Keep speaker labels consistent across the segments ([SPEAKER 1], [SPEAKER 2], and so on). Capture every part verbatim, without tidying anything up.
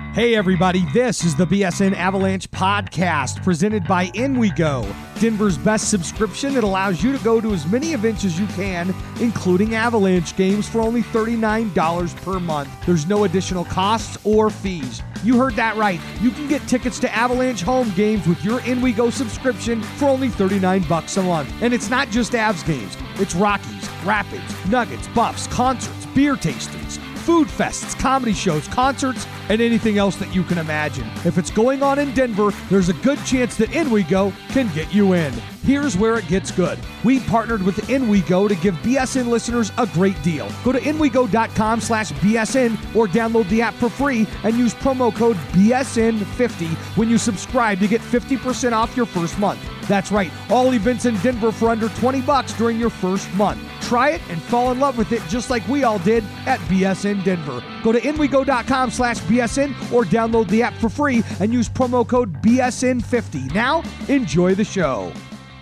[SPEAKER 1] Hey everybody, this is the B S N Avalanche podcast presented by InWeGo, Denver's best subscription that allows you to go to as many events as you can, including Avalanche games for only thirty-nine dollars per month. There's no additional costs or fees. You heard that right. You can get tickets to Avalanche home games with your InWeGo subscription for only thirty-nine bucks a month. And it's not just Avs games. It's Rockies, Rapids, Nuggets, Buffs, concerts, beer tastings, food fests, comedy shows, concerts, and anything else that you can imagine. If it's going on in Denver, there's a good chance that InWeGo can get you in. Here's where it gets good. We partnered with InWeGo to give B S N listeners a great deal. Go to InWeGo.com slash BSN or download the app for free and use promo code B S N fifty when you subscribe to get fifty percent off your first month. That's right, all events in Denver for under twenty bucks during your first month. Try it and fall in love with it just like we all did at B S N Denver. Go to InWeGo.com slash BSN or download the app for free and use promo code B S N fifty. Now, enjoy the show.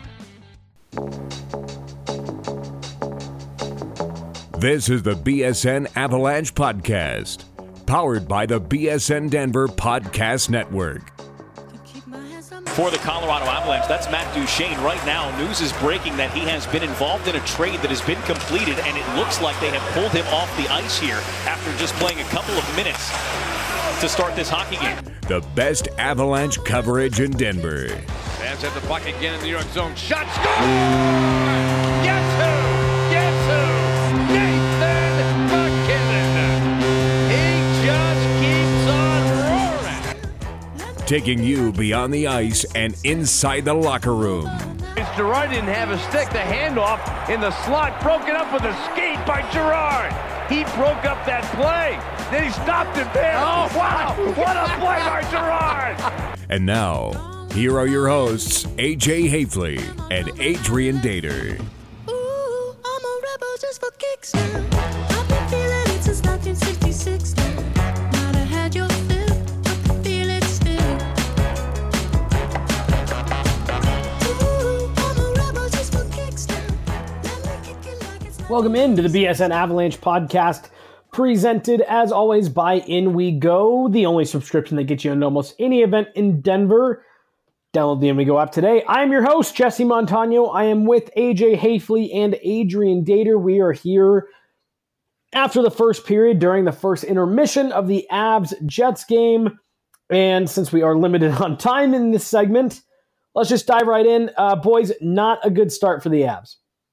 [SPEAKER 2] This is the B S N Avalanche Podcast, powered by the B S N Denver Podcast Network.
[SPEAKER 3] For the Colorado Avalanche, that's Matt Duchene. Right now, news is breaking that he has been involved in a trade that has been completed, and it looks like they have pulled him off the ice here after just playing a couple of minutes to start this hockey game.
[SPEAKER 2] The best Avalanche coverage in Denver.
[SPEAKER 4] Fans have the puck again in the New York zone. Shot, score! Guess who? Guess who? Nathan MacKinnon. He just keeps on roaring.
[SPEAKER 2] Taking you beyond the ice and inside the locker room.
[SPEAKER 4] Girard didn't have a stick. The handoff in the slot, broken up with a skate by Girard. He broke up that play. Then he stopped it there. Oh, wow. What a play by Girard.
[SPEAKER 2] And now, here are your hosts, A J Hafley and Adrian Dater.
[SPEAKER 5] Ooh, I'm a rebel just for kicks now. I've been feeling it since nineteen sixty-six now. Might have had your fill, I can feel it still. Ooh, I'm a rebel just for kicks now. Let me kick it like it's not.
[SPEAKER 6] Welcome into the B S N Avalanche podcast, presented as always by InWeGo, the only subscription that gets you into almost any event in Denver. Download the InWeGo app today. I'm your host, Jesse Montano. I am with A J Hafley and Adrian Dater. We are here after the first period during the first intermission of the Avs-Jets game. And since we are limited on time in this segment, let's just dive right in. Uh, boys, not a good start for the Avs.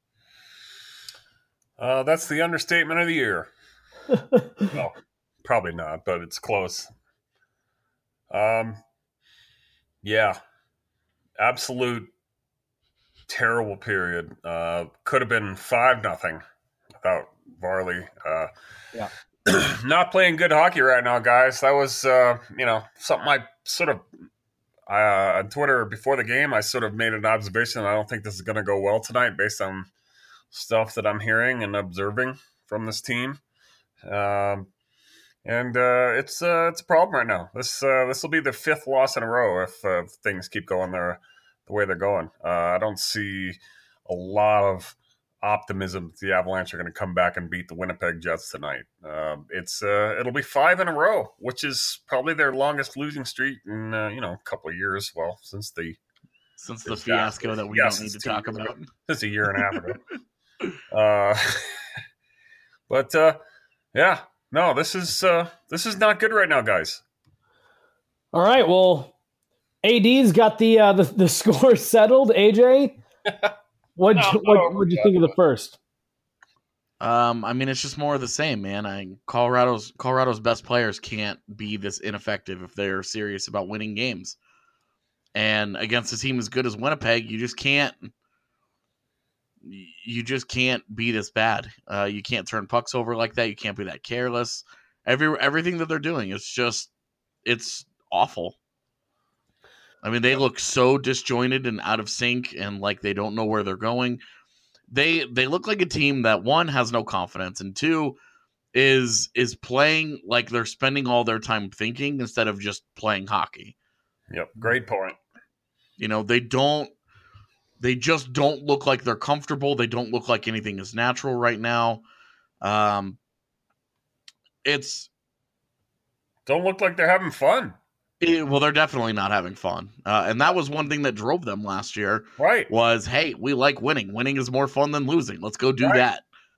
[SPEAKER 7] Uh, that's the understatement of the year. Well, probably not, but it's close. Um, yeah, absolute terrible period. Uh, could have been five nothing without Varley. Uh,
[SPEAKER 6] Yeah.
[SPEAKER 7] Not playing good hockey right now, guys. That was, uh, you know, something I sort of uh, on Twitter before the game. I sort of made an observation. I don't think this is going to go well tonight, based on stuff that I'm hearing and observing from this team. Um, and uh, it's uh, it's a problem right now. This uh, this will be the fifth loss in a row if uh, things keep going there the way they're going. Uh, I don't see a lot of optimism that the Avalanche are going to come back and beat the Winnipeg Jets tonight. Uh, it's uh, it'll be five in a row, which is probably their longest losing streak in uh, you know a couple of years. Well, since the
[SPEAKER 8] Since the fiasco that we
[SPEAKER 7] Yes,
[SPEAKER 8] don't need to
[SPEAKER 7] it's
[SPEAKER 8] talk
[SPEAKER 7] two years
[SPEAKER 8] about.
[SPEAKER 7] ago. Since a year and a half ago. uh, but uh, yeah, no, this is uh, this is not good right now, guys.
[SPEAKER 6] All right, well, A D's got the uh, the, the score settled. A J, what'd,
[SPEAKER 7] No,
[SPEAKER 6] you,
[SPEAKER 7] no,
[SPEAKER 6] what, what'd you think of the first?
[SPEAKER 8] Um, I mean, it's just more of the same, man. I Colorado's Colorado's best players can't be this ineffective if they're serious about winning games. And against a team as good as Winnipeg, you just can't. You just can't be this bad. Uh, you can't turn pucks over like that. You can't be that careless. Every everything that they're doing is just, it's awful. I mean, they look so disjointed and out of sync, and like they don't know where they're going. They they look like a team that, one, has no confidence, and two, is is playing like they're spending all their time thinking instead of just playing hockey.
[SPEAKER 7] Yep, great point.
[SPEAKER 8] You know, they don't they just don't look like they're comfortable. They don't look like anything is natural right now. Um, it's
[SPEAKER 7] don't look like they're having fun.
[SPEAKER 8] It, well, they're definitely not having fun. Uh, and that was one thing that drove them last year.
[SPEAKER 7] Right.
[SPEAKER 8] Was, hey, we like winning. Winning is more fun than losing. Let's go do
[SPEAKER 7] right.
[SPEAKER 8] that.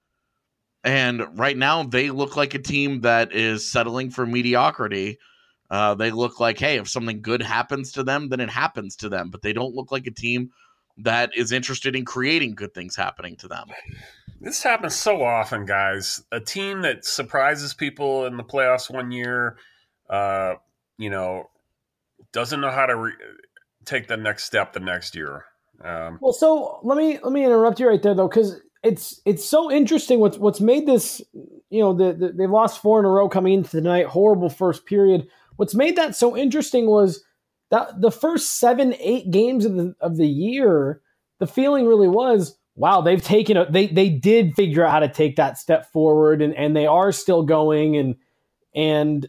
[SPEAKER 8] And right now, they look like a team that is settling for mediocrity. Uh, they look like, hey, if something good happens to them, then it happens to them. But they don't look like a team that is interested in creating good things happening to them.
[SPEAKER 7] This happens so often, guys. A team that surprises people in the playoffs one year, uh, you know, doesn't know how to re- take the next step the next year. Um,
[SPEAKER 6] well, so let me let me interrupt you right there, though, because it's it's so interesting. What's what's made this, you know, the, the, they've lost four in a row coming into tonight. Horrible first period. What's made that so interesting was that the first seven, eight games of the of the year, the feeling really was, wow, they've taken a they they did figure out how to take that step forward, and, and they are still going, and and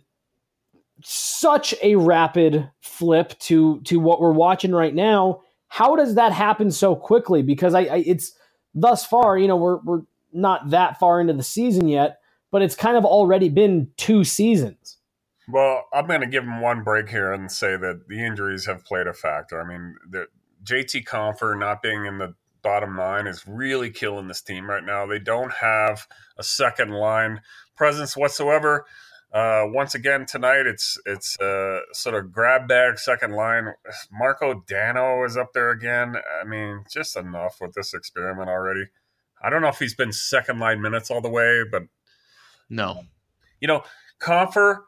[SPEAKER 6] such a rapid flip to to what we're watching right now. How does that happen so quickly? Because I, I it's thus far, you know, we're we're not that far into the season yet, but it's kind of already been two seasons.
[SPEAKER 7] Well, I'm going to give him one break here and say that the injuries have played a factor. I mean, the J T Compher not being in the bottom nine is really killing this team right now. They don't have a second line presence whatsoever. Uh, once again tonight, it's it's uh, sort of grab bag second line. Marco Dano is up there again. I mean, just enough with this experiment already. I don't know if he's been second line minutes all the way, but
[SPEAKER 8] no.
[SPEAKER 7] You know, Compher,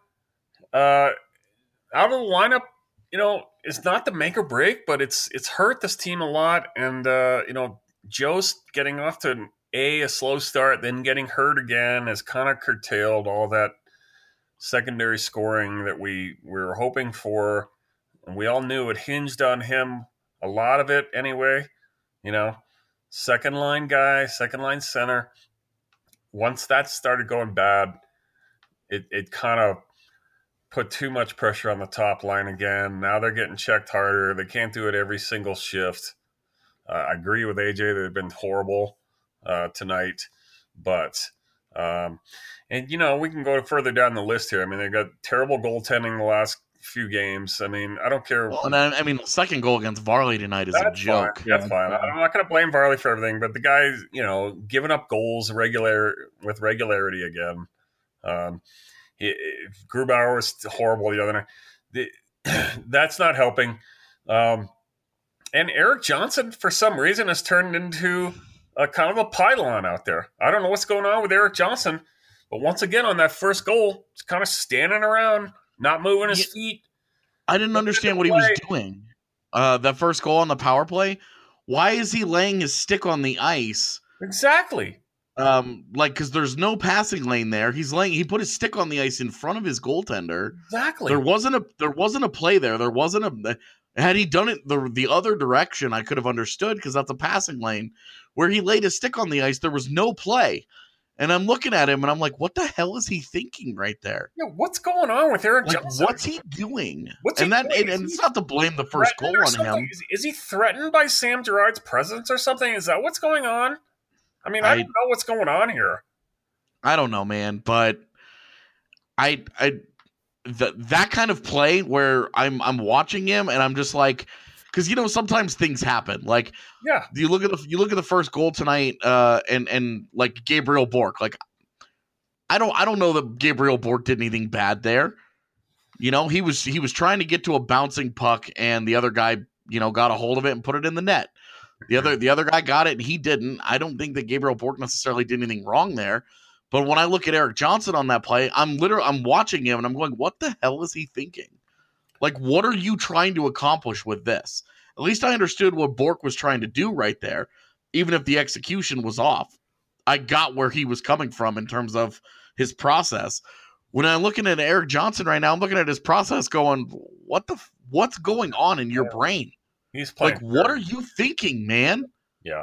[SPEAKER 7] uh, out of the lineup, you know, it's not the make or break, but it's it's hurt this team a lot. And, uh, you know, Jost getting off to a, a slow start, then getting hurt again has kind of curtailed all that secondary scoring that we, we were hoping for. And we all knew it hinged on him, a lot of it anyway. You know, second line guy, second line center. Once that started going bad, it, it kind of put too much pressure on the top line again. Now they're getting checked harder. They can't do it every single shift. Uh, I agree with A J. They've been horrible uh, tonight. But, um, and, you know, we can go further down the list here. I mean, they've got terrible goaltending the last few games. I mean, I don't care.
[SPEAKER 8] Well, and I, I mean, the second goal against Varley tonight is
[SPEAKER 7] That's
[SPEAKER 8] a joke.
[SPEAKER 7] Fine. That's fine. I'm not going to blame Varley for everything, but the guy's, you know, giving up goals regular with regularity again. Um, he, Grubauer was horrible the other night. The, that's not helping. Um, and Erik Johnson, for some reason, has turned into a kind of a pylon out there. I don't know what's going on with Erik Johnson, but once again, on that first goal, he's kind of standing around, not moving his yeah. feet.
[SPEAKER 8] I didn't understand what he was doing. Uh, that first goal on the power play, why is he laying his stick on the ice?
[SPEAKER 7] Exactly.
[SPEAKER 8] Um, like, because there's no passing lane there. He's laying. He put his stick on the ice in front of his goaltender.
[SPEAKER 7] Exactly.
[SPEAKER 8] There wasn't a. There wasn't a play there. There wasn't a. Had he done it the the other direction, I could have understood because that's a passing lane. Where he laid his stick on the ice, there was no play. And I'm looking at him, and I'm like, "What the hell is he thinking right there?
[SPEAKER 7] Yeah, what's going on with Erik
[SPEAKER 8] like,
[SPEAKER 7] Johnson?
[SPEAKER 8] What's he doing?
[SPEAKER 7] What's
[SPEAKER 8] and
[SPEAKER 7] he
[SPEAKER 8] that,
[SPEAKER 7] doing?
[SPEAKER 8] and, and it's not to blame the first goal on him.
[SPEAKER 7] Is, is he threatened by Sam Girard's presence or something? Is that what's going on? I mean, I, I don't know what's going on here.
[SPEAKER 8] I don't know, man, but I, I, the, that kind of play where I'm, I'm watching him, and I'm just like. Because you know sometimes things happen. Like
[SPEAKER 7] yeah,
[SPEAKER 8] you look at the you look at the first goal tonight, uh, and and like Gabriel Bourque. Like I don't I don't know that Gabriel Bourque did anything bad there. You know he was he was trying to get to a bouncing puck, and the other guy you know got a hold of it and put it in the net. The other the other guy got it and he didn't. I don't think that Gabriel Bourque necessarily did anything wrong there. But when I look at Erik Johnson on that play, I'm literally I'm watching him and I'm going, what the hell is he thinking? Like, what are you trying to accomplish with this? At least I understood what Bourque was trying to do right there, even if the execution was off. I got where he was coming from in terms of his process. When I'm looking at Erik Johnson right now, I'm looking at his process going, what the, what's going on in your yeah. brain?
[SPEAKER 7] He's playing.
[SPEAKER 8] Like, what are you thinking, man?
[SPEAKER 7] Yeah.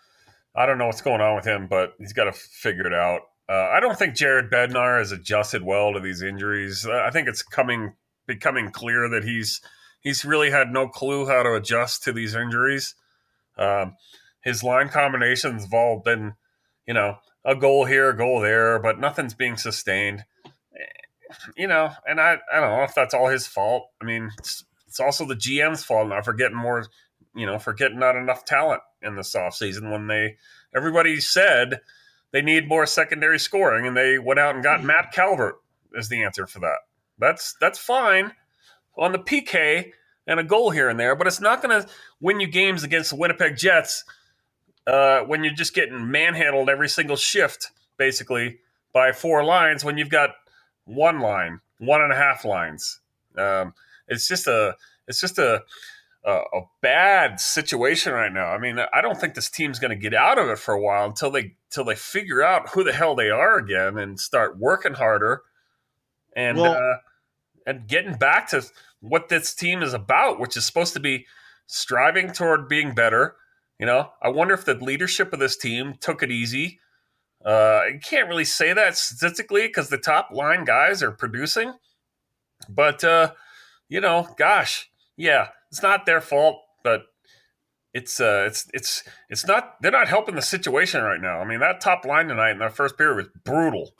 [SPEAKER 7] I don't know what's going on with him, but he's got to figure it out. Uh, I don't think Jared Bednar has adjusted well to these injuries. I think it's coming... becoming clear that he's he's really had no clue how to adjust to these injuries. Um, his line combinations have all been, you know, a goal here, a goal there, but nothing's being sustained. you know, and I, I don't know if that's all his fault. I mean, it's, it's also the G M's fault now for getting more, you know, for getting not enough talent in this offseason when they, everybody said they need more secondary scoring, and they went out and got Matt Calvert as the answer for that. That's that's fine on the P K and a goal here and there, but it's not going to win you games against the Winnipeg Jets uh, when you're just getting manhandled every single shift, basically, by four lines when you've got one line, one and a half lines. Um, it's just a it's just a, a a bad situation right now. I mean, I don't think this team's going to get out of it for a while until they until they figure out who the hell they are again and start working harder and
[SPEAKER 8] Well,
[SPEAKER 7] uh, and getting back to what this team is about, which is supposed to be striving toward being better. You know, I wonder if the leadership of this team took it easy. Uh, you can't really say that statistically because the top line guys are producing. But, uh, you know, gosh, yeah, it's not their fault, but it's uh, it's it's it's not. They're not helping the situation right now. I mean, that top line tonight in that first period was brutal.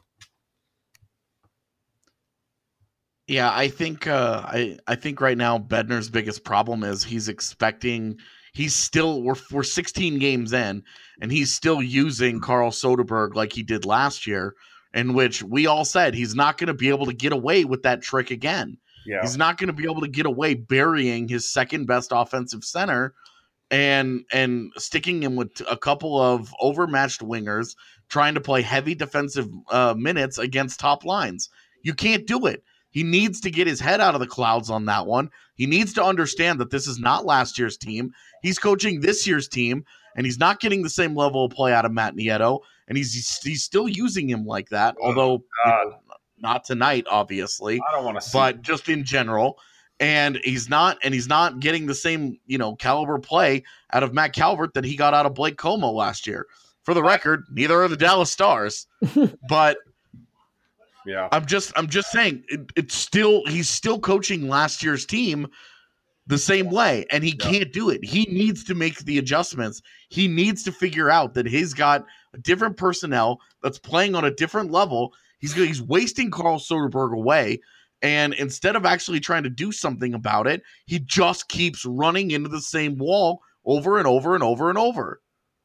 [SPEAKER 8] Yeah, I think uh, I I think right now Bednar's biggest problem is he's expecting he's still we're we're sixteen games in and he's still using Carl Soderberg like he did last year, in which we all said he's not going to be able to get away with that trick again.
[SPEAKER 7] Yeah,
[SPEAKER 8] He's not going to be able to get away burying his second best offensive center and and sticking him with a couple of overmatched wingers trying to play heavy defensive uh, minutes against top lines. You can't do it. He needs to get his head out of the clouds on that one. He needs to understand that this is not last year's team. He's coaching this year's team, and he's not getting the same level of play out of Matt Nieto, and he's he's still using him like that,
[SPEAKER 7] Oh,
[SPEAKER 8] although
[SPEAKER 7] God.
[SPEAKER 8] you know, not tonight, obviously,
[SPEAKER 7] I don't want to see.
[SPEAKER 8] but just in general. And he's not, and he's not getting the same, you know, caliber play out of Matt Calvert that he got out of Blake Como last year. For the record, neither are the Dallas Stars, but
[SPEAKER 7] yeah,
[SPEAKER 8] I'm just I'm just saying it, it's still he's still coaching last year's team the same way, and he
[SPEAKER 7] Yeah.
[SPEAKER 8] can't do it. He needs to make the adjustments. He needs to figure out that he's got a different personnel that's playing on a different level. He's he's wasting Carl Soderberg away, and instead of actually trying to do something about it, he just keeps running into the same wall over and over and over and over.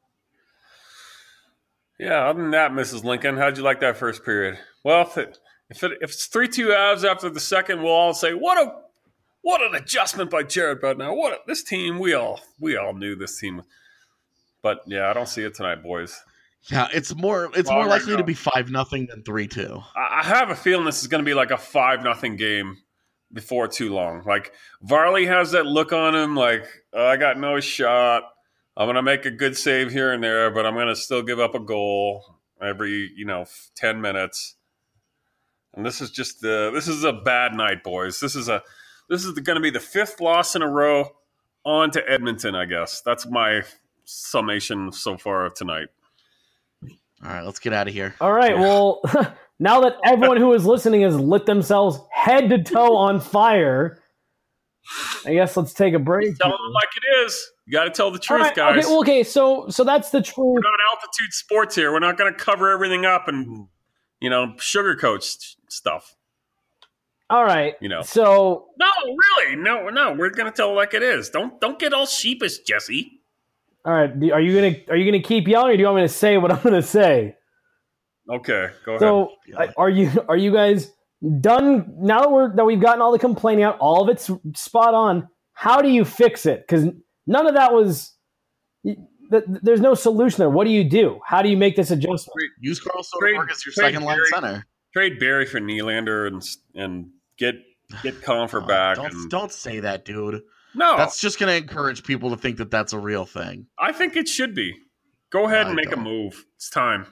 [SPEAKER 7] yeah. Other than that, Missus Lincoln, how'd you like that first period? Well, if it, if, it, if it's three two Avs after the second, we'll all say what a what an adjustment by Jared Bednar. What a, this team, we all we all knew this team, but yeah, I don't see it tonight, boys.
[SPEAKER 8] Yeah, it's more it's
[SPEAKER 7] Well,
[SPEAKER 8] more
[SPEAKER 7] right
[SPEAKER 8] likely
[SPEAKER 7] now.
[SPEAKER 8] to be five nothing than three two.
[SPEAKER 7] I, I have a feeling this is going to be like a five nothing game before too long. Like Varley has that look on him, like oh, I got no shot. I'm going to make a good save here and there, but I'm going to still give up a goal every you know ten minutes. And this is just the this is a bad night, boys. This is a this is going to be the fifth loss in a row on to Edmonton, I guess. That's my summation so far of tonight.
[SPEAKER 8] All right, let's get out of here.
[SPEAKER 6] All right. Well, now that everyone who is listening has lit themselves head to toe on fire, I guess let's take a break.
[SPEAKER 7] Tell them like it is. You got to tell the
[SPEAKER 6] All
[SPEAKER 7] truth,
[SPEAKER 6] right,
[SPEAKER 7] guys.
[SPEAKER 6] Okay, well, okay, so so that's the truth.
[SPEAKER 7] We're not altitude sports here. We're not going to cover everything up and, you know, sugarcoat s- stuff.
[SPEAKER 6] All right.
[SPEAKER 7] You know.
[SPEAKER 6] So
[SPEAKER 7] No, really. No, no. We're going to tell it like it is. Don't don't get all sheepish, Jesse.
[SPEAKER 6] all right, do- are you gonna are you gonna keep yelling, or do you want me to say what I'm gonna say?
[SPEAKER 7] Okay, go ahead.
[SPEAKER 6] So
[SPEAKER 8] Yeah.
[SPEAKER 6] are you are you guys done now that we're that we've gotten all the complaining out, all of it's spot on? How do you fix it? Because none of that was. th- There's no solution there. What do you do? How do you make this adjustment?
[SPEAKER 8] Use Carl
[SPEAKER 7] Trade-
[SPEAKER 8] Soderberg as your
[SPEAKER 7] trade
[SPEAKER 8] second line
[SPEAKER 7] Barry.
[SPEAKER 8] center.
[SPEAKER 7] Trade Barry for Nylander and and get get Confer
[SPEAKER 8] Oh,
[SPEAKER 7] back.
[SPEAKER 8] don't,
[SPEAKER 7] and,
[SPEAKER 8] don't say that, dude.
[SPEAKER 7] no,
[SPEAKER 8] That's just going to encourage people to think that that's a real thing.
[SPEAKER 7] I think it should be. Go ahead
[SPEAKER 8] I
[SPEAKER 7] and make a
[SPEAKER 8] don't.
[SPEAKER 7] move. It's time.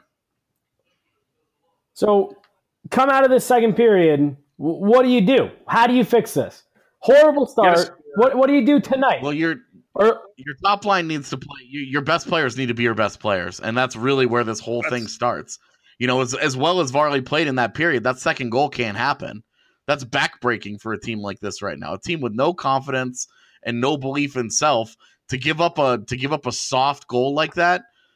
[SPEAKER 6] So come out of this second period. w- What do you do? How do you fix this? Horrible start.
[SPEAKER 7] Yes.
[SPEAKER 6] What what do you do tonight?
[SPEAKER 8] Well, your
[SPEAKER 6] or
[SPEAKER 8] your top line needs to play. You, your best players need to be your best players, and that's really where this whole thing
[SPEAKER 7] That's-
[SPEAKER 8] starts. You know, as as well as Varley played in that period, that second goal can't happen. That's backbreaking for a team like this right now. A team with no confidence and no belief in self to give up a to give up a soft goal like that.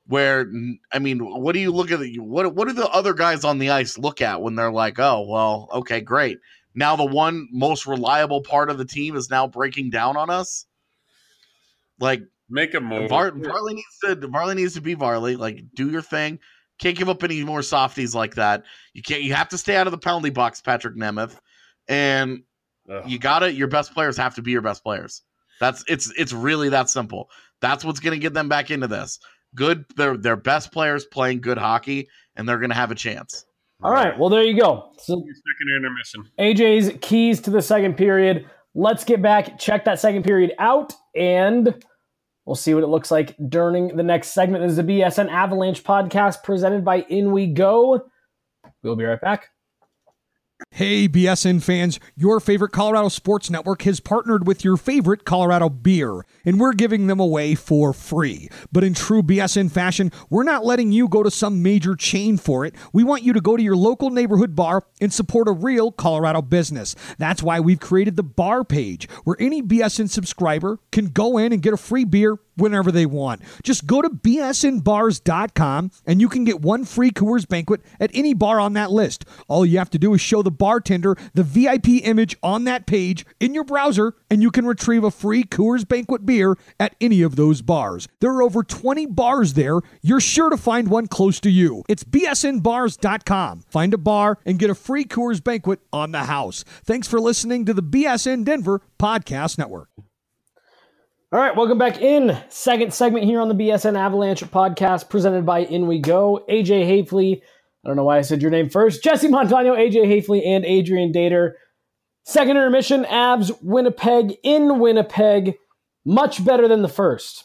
[SPEAKER 8] Where, I mean, what do you look at? The, what what do the other guys on the ice look at when they're like, oh, well, okay, great. Now the one most reliable part of the team is now breaking down on us. Like,
[SPEAKER 7] make a move.
[SPEAKER 8] Var, Varley needs to Varley needs to be Varley. Like, do your thing. Can't give up any more softies like that. You can't. You have to stay out of the penalty box, Patrick Nemeth, and Ugh. you got to Your best players have to be your best players. That's it's it's really that simple. That's what's going to get them back into this. Good, they're their best players playing good hockey, and they're going to have a chance.
[SPEAKER 6] All right, well, there you go. So,
[SPEAKER 7] second intermission.
[SPEAKER 6] A J's keys to the second period. Let's get back, check that second period out, and we'll see what it looks like during the next segment. This is the B S N Avalanche podcast presented by In We Go. We'll be right back.
[SPEAKER 1] Hey, B S N fans, your favorite Colorado Sports Network has partnered with your favorite Colorado beer, and we're giving them away for free. But in true B S N fashion, we're not letting you go to some major chain for it. We want you to go to your local neighborhood bar and support a real Colorado business. That's why we've created the bar page, where any B S N subscriber can go in and get a free beer whenever they want. Just go to b s n bars dot com and you can get one free Coors Banquet at any bar on that list. All you have to do is show the bartender the V I P image on that page in your browser, and you can retrieve a free Coors Banquet beer at any of those bars. There are over twenty bars there. You're sure to find one close to you. It's b s n bars dot com. Find a bar and get a free Coors Banquet on the house. Thanks for listening to the B S N Denver Podcast Network.
[SPEAKER 6] All right, welcome back in. Second segment here on the B S N Avalanche podcast presented by In We Go. A J Hafley, I don't know why I said your name first. Jesse Montano, A J Hafley, and Adrian Dater. Second intermission, Avs, Winnipeg in Winnipeg. Much better than the first.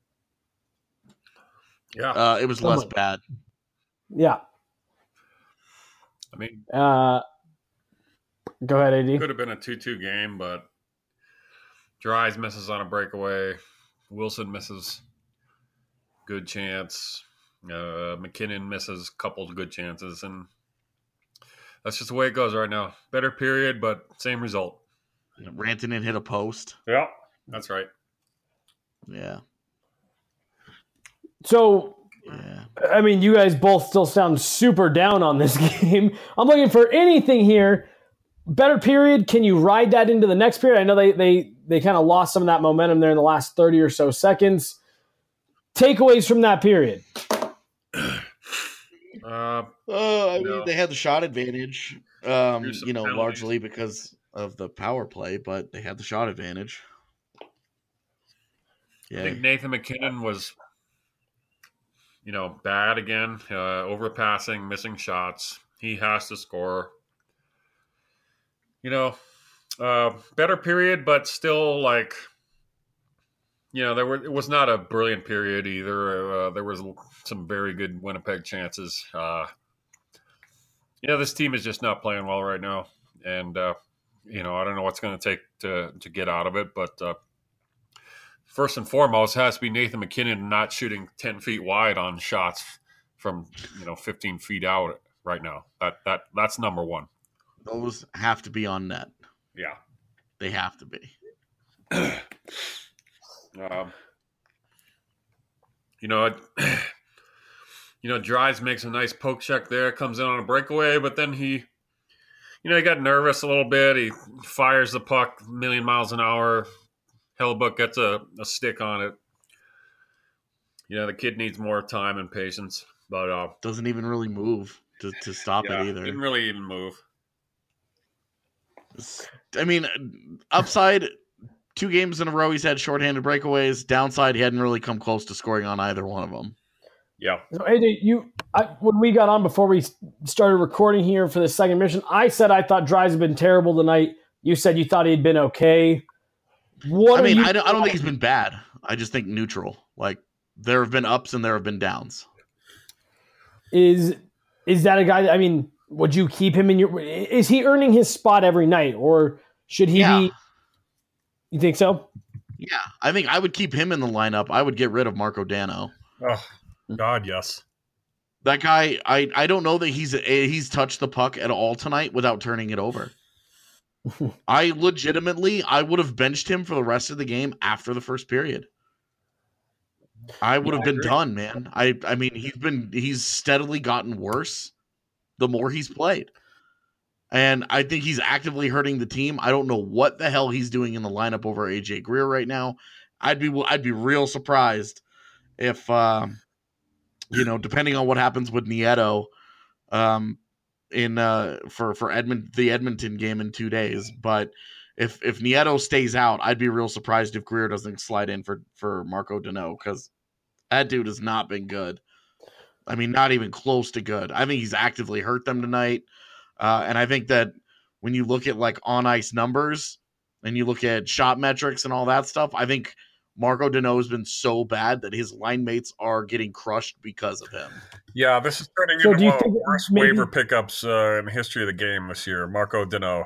[SPEAKER 7] Yeah.
[SPEAKER 8] Uh, it was less bad.
[SPEAKER 6] Yeah.
[SPEAKER 7] I mean,
[SPEAKER 6] uh, go ahead, A D.
[SPEAKER 7] Could have been a two two game, but Dries misses on a breakaway. Wilson misses. Good chance. Uh, McKinnon misses a couple of good chances. And that's just the way it goes right now. Better period, but same result.
[SPEAKER 8] Rantanen hit a post.
[SPEAKER 7] Yeah, that's right.
[SPEAKER 8] Yeah.
[SPEAKER 6] So,
[SPEAKER 8] yeah.
[SPEAKER 6] I mean, you guys both still sound super down on this game. I'm looking for anything here. Better period. Can you ride that into the next period? I know they they they kind of lost some of that momentum there in the last thirty or so seconds. Takeaways from that period.
[SPEAKER 7] Uh,
[SPEAKER 8] uh, I mean,
[SPEAKER 7] no.
[SPEAKER 8] they had the shot advantage, um, you know,
[SPEAKER 7] penalties.
[SPEAKER 8] largely because of the power play, but they had the shot advantage. Yeah.
[SPEAKER 7] I think Nathan McKinnon was, you know, bad again, uh, overpassing, missing shots. He has to score. You know, uh, better period, but still, like, you know, there were it was not a brilliant period either. Uh, there was some very good Winnipeg chances. Uh, you know, this team is just not playing well right now, and uh, you know, I don't know what's going to take to to get out of it. But uh, first and foremost, has to be Nathan McKinnon not shooting ten feet wide on shots from you know fifteen feet out right now. That that that's number one.
[SPEAKER 8] Those have to be on net.
[SPEAKER 7] Yeah.
[SPEAKER 8] They have to be.
[SPEAKER 7] um, you know, you know, Dries makes a nice poke check there, comes in on a breakaway, but then he, you know, he got nervous a little bit. He fires the puck a million miles an hour. Hellebuyck gets a, a stick on it. You know, the kid needs more time and patience, but uh,
[SPEAKER 8] doesn't even really move to, to stop
[SPEAKER 7] yeah,
[SPEAKER 8] it either.
[SPEAKER 7] Didn't really even move.
[SPEAKER 8] I mean, upside, two games in a row he's had shorthanded breakaways. Downside, he hadn't really come close to scoring on either one of them.
[SPEAKER 7] Yeah.
[SPEAKER 6] So, A J, you, I, when we got on before we started recording here for the second mission, I said I thought Dries had been terrible tonight. You said you thought he'd been okay. What
[SPEAKER 8] I mean,
[SPEAKER 6] you-
[SPEAKER 8] I don't, I don't think he's been bad. I just think neutral. Like, there have been ups and there have been downs.
[SPEAKER 6] Is is that a guy that, I mean, would you keep him in your... Is he earning his spot every night, or should he
[SPEAKER 8] Yeah.
[SPEAKER 6] be... You think so?
[SPEAKER 8] Yeah, I think I would keep him in the lineup. I would get rid of Marco Dano.
[SPEAKER 7] Oh, God, yes.
[SPEAKER 8] That guy, I, I don't know that he's he's touched the puck at all tonight without turning it over. I legitimately, I would have benched him for the rest of the game after the first period. I would
[SPEAKER 7] Yeah,
[SPEAKER 8] have
[SPEAKER 7] I
[SPEAKER 8] been
[SPEAKER 7] agree.
[SPEAKER 8] done, man. I I mean, he's been he's steadily gotten worse the more he's played. And I think he's actively hurting the team. I don't know what the hell he's doing in the lineup over A J Greer right now. I'd be I'd be real surprised if um, you know, depending on what happens with Nieto um, in uh, for for Edmont the Edmonton game in two days. But if if Nieto stays out, I'd be real surprised if Greer doesn't slide in for for Marco Deneau, because that dude has not been good. I mean, not even close to good. I think he's actively hurt them tonight. Uh, and I think that when you look at like on ice numbers and you look at shot metrics and all that stuff, I think Marco Deneau has been so bad that his line mates are getting crushed because of him.
[SPEAKER 7] Yeah, this is turning
[SPEAKER 6] So
[SPEAKER 7] into
[SPEAKER 6] do you
[SPEAKER 7] one of
[SPEAKER 6] think
[SPEAKER 7] the worst
[SPEAKER 6] maybe-
[SPEAKER 7] waiver pickups uh, in the history of the game this year. Marco Deneau.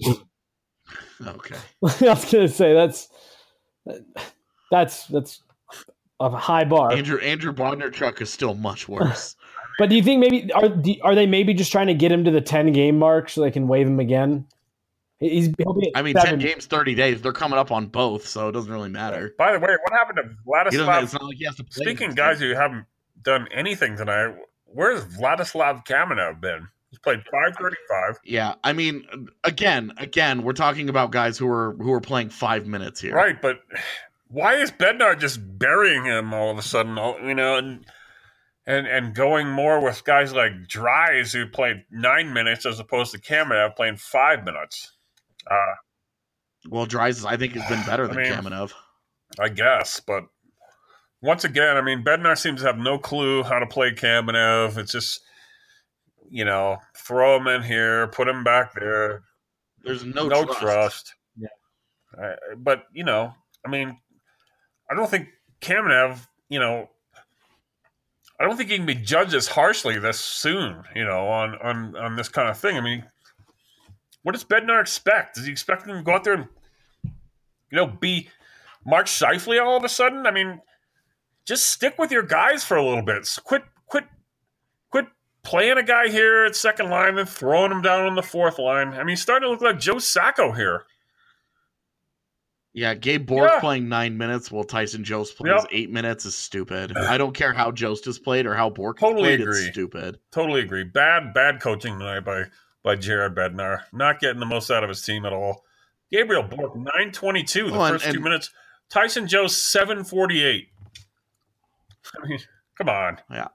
[SPEAKER 8] Okay.
[SPEAKER 6] I was gonna say that's that's that's a high bar.
[SPEAKER 8] Andrew Andrew Bondarchuk is still much worse.
[SPEAKER 6] But do you think maybe are do, are they maybe just trying to get him to the ten game mark so they can waive him again? He's he'll be at
[SPEAKER 8] I mean,
[SPEAKER 6] seven.
[SPEAKER 8] ten games, thirty days. They're coming up on both, so it doesn't really matter.
[SPEAKER 7] By the way, what happened to
[SPEAKER 8] He doesn't,
[SPEAKER 7] Vladislav?
[SPEAKER 8] it's not like he has to play.
[SPEAKER 7] Speaking of
[SPEAKER 8] this
[SPEAKER 7] guys
[SPEAKER 8] game.
[SPEAKER 7] who haven't done anything tonight, where's Vladislav Kamenev been? He's played five thirty-five.
[SPEAKER 8] Yeah, I mean, again, again, we're talking about guys who are who are playing five minutes here.
[SPEAKER 7] Right, but why is Bednar just burying him all of a sudden? You know, and and and going more with guys like Dries who played nine minutes as opposed to Kamenev playing five minutes. Uh,
[SPEAKER 8] Well, Dries, I think, has been better
[SPEAKER 7] I
[SPEAKER 8] than
[SPEAKER 7] mean-
[SPEAKER 8] Kamenev.
[SPEAKER 7] I guess, but once again, I mean, Bednar seems to have no clue how to play Kamenev. It's just, you know, throw him in here, put him back there.
[SPEAKER 8] There's no,
[SPEAKER 7] no
[SPEAKER 8] trust.
[SPEAKER 7] trust.
[SPEAKER 6] Yeah.
[SPEAKER 7] Uh, but, you know, I mean, I don't think Kamenev, you know, I don't think he can be judged as harshly this soon, you know, on, on, on this kind of thing. I mean, what does Bednar expect? Does he expect him to go out there and, you know, be Mark Scheifele all of a sudden? I mean, just stick with your guys for a little bit. So quit, quit, quit playing a guy here at second line and throwing him down on the fourth line. I mean, he's starting to look like Joe Sacco here.
[SPEAKER 8] Yeah, Gabe Bork
[SPEAKER 7] Yeah.
[SPEAKER 8] playing nine minutes while Tyson Jost plays
[SPEAKER 7] Yep.
[SPEAKER 8] eight minutes is stupid. I don't care how Jost has played or how Bork has
[SPEAKER 7] Totally
[SPEAKER 8] played.
[SPEAKER 7] agree.
[SPEAKER 8] It's stupid.
[SPEAKER 7] Totally agree. Bad, bad coaching tonight by by Jared Bednar. Not getting the most out of his team at all. Gabriel Bork, nine twenty-two the
[SPEAKER 8] Well, and-
[SPEAKER 7] first two
[SPEAKER 8] and-
[SPEAKER 7] minutes. Tyson Joe, seven forty-eight. I mean, come on.
[SPEAKER 8] Yeah.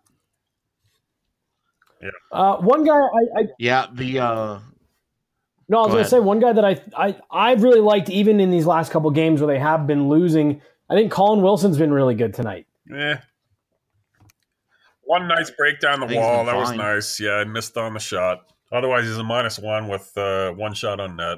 [SPEAKER 6] Uh, one guy I, I
[SPEAKER 8] Yeah, the uh
[SPEAKER 6] no, I was
[SPEAKER 8] Go
[SPEAKER 6] going to
[SPEAKER 8] ahead.
[SPEAKER 6] say one guy that I I I've really liked even in these last couple games where they have been losing. I think Colin Wilson's been really good tonight.
[SPEAKER 7] Eh. One nice break down the
[SPEAKER 8] I think he's
[SPEAKER 7] wall.
[SPEAKER 8] been
[SPEAKER 7] That was
[SPEAKER 8] fine.
[SPEAKER 7] nice. Yeah, I missed on the shot. Otherwise, he's a minus one with uh, one shot on net.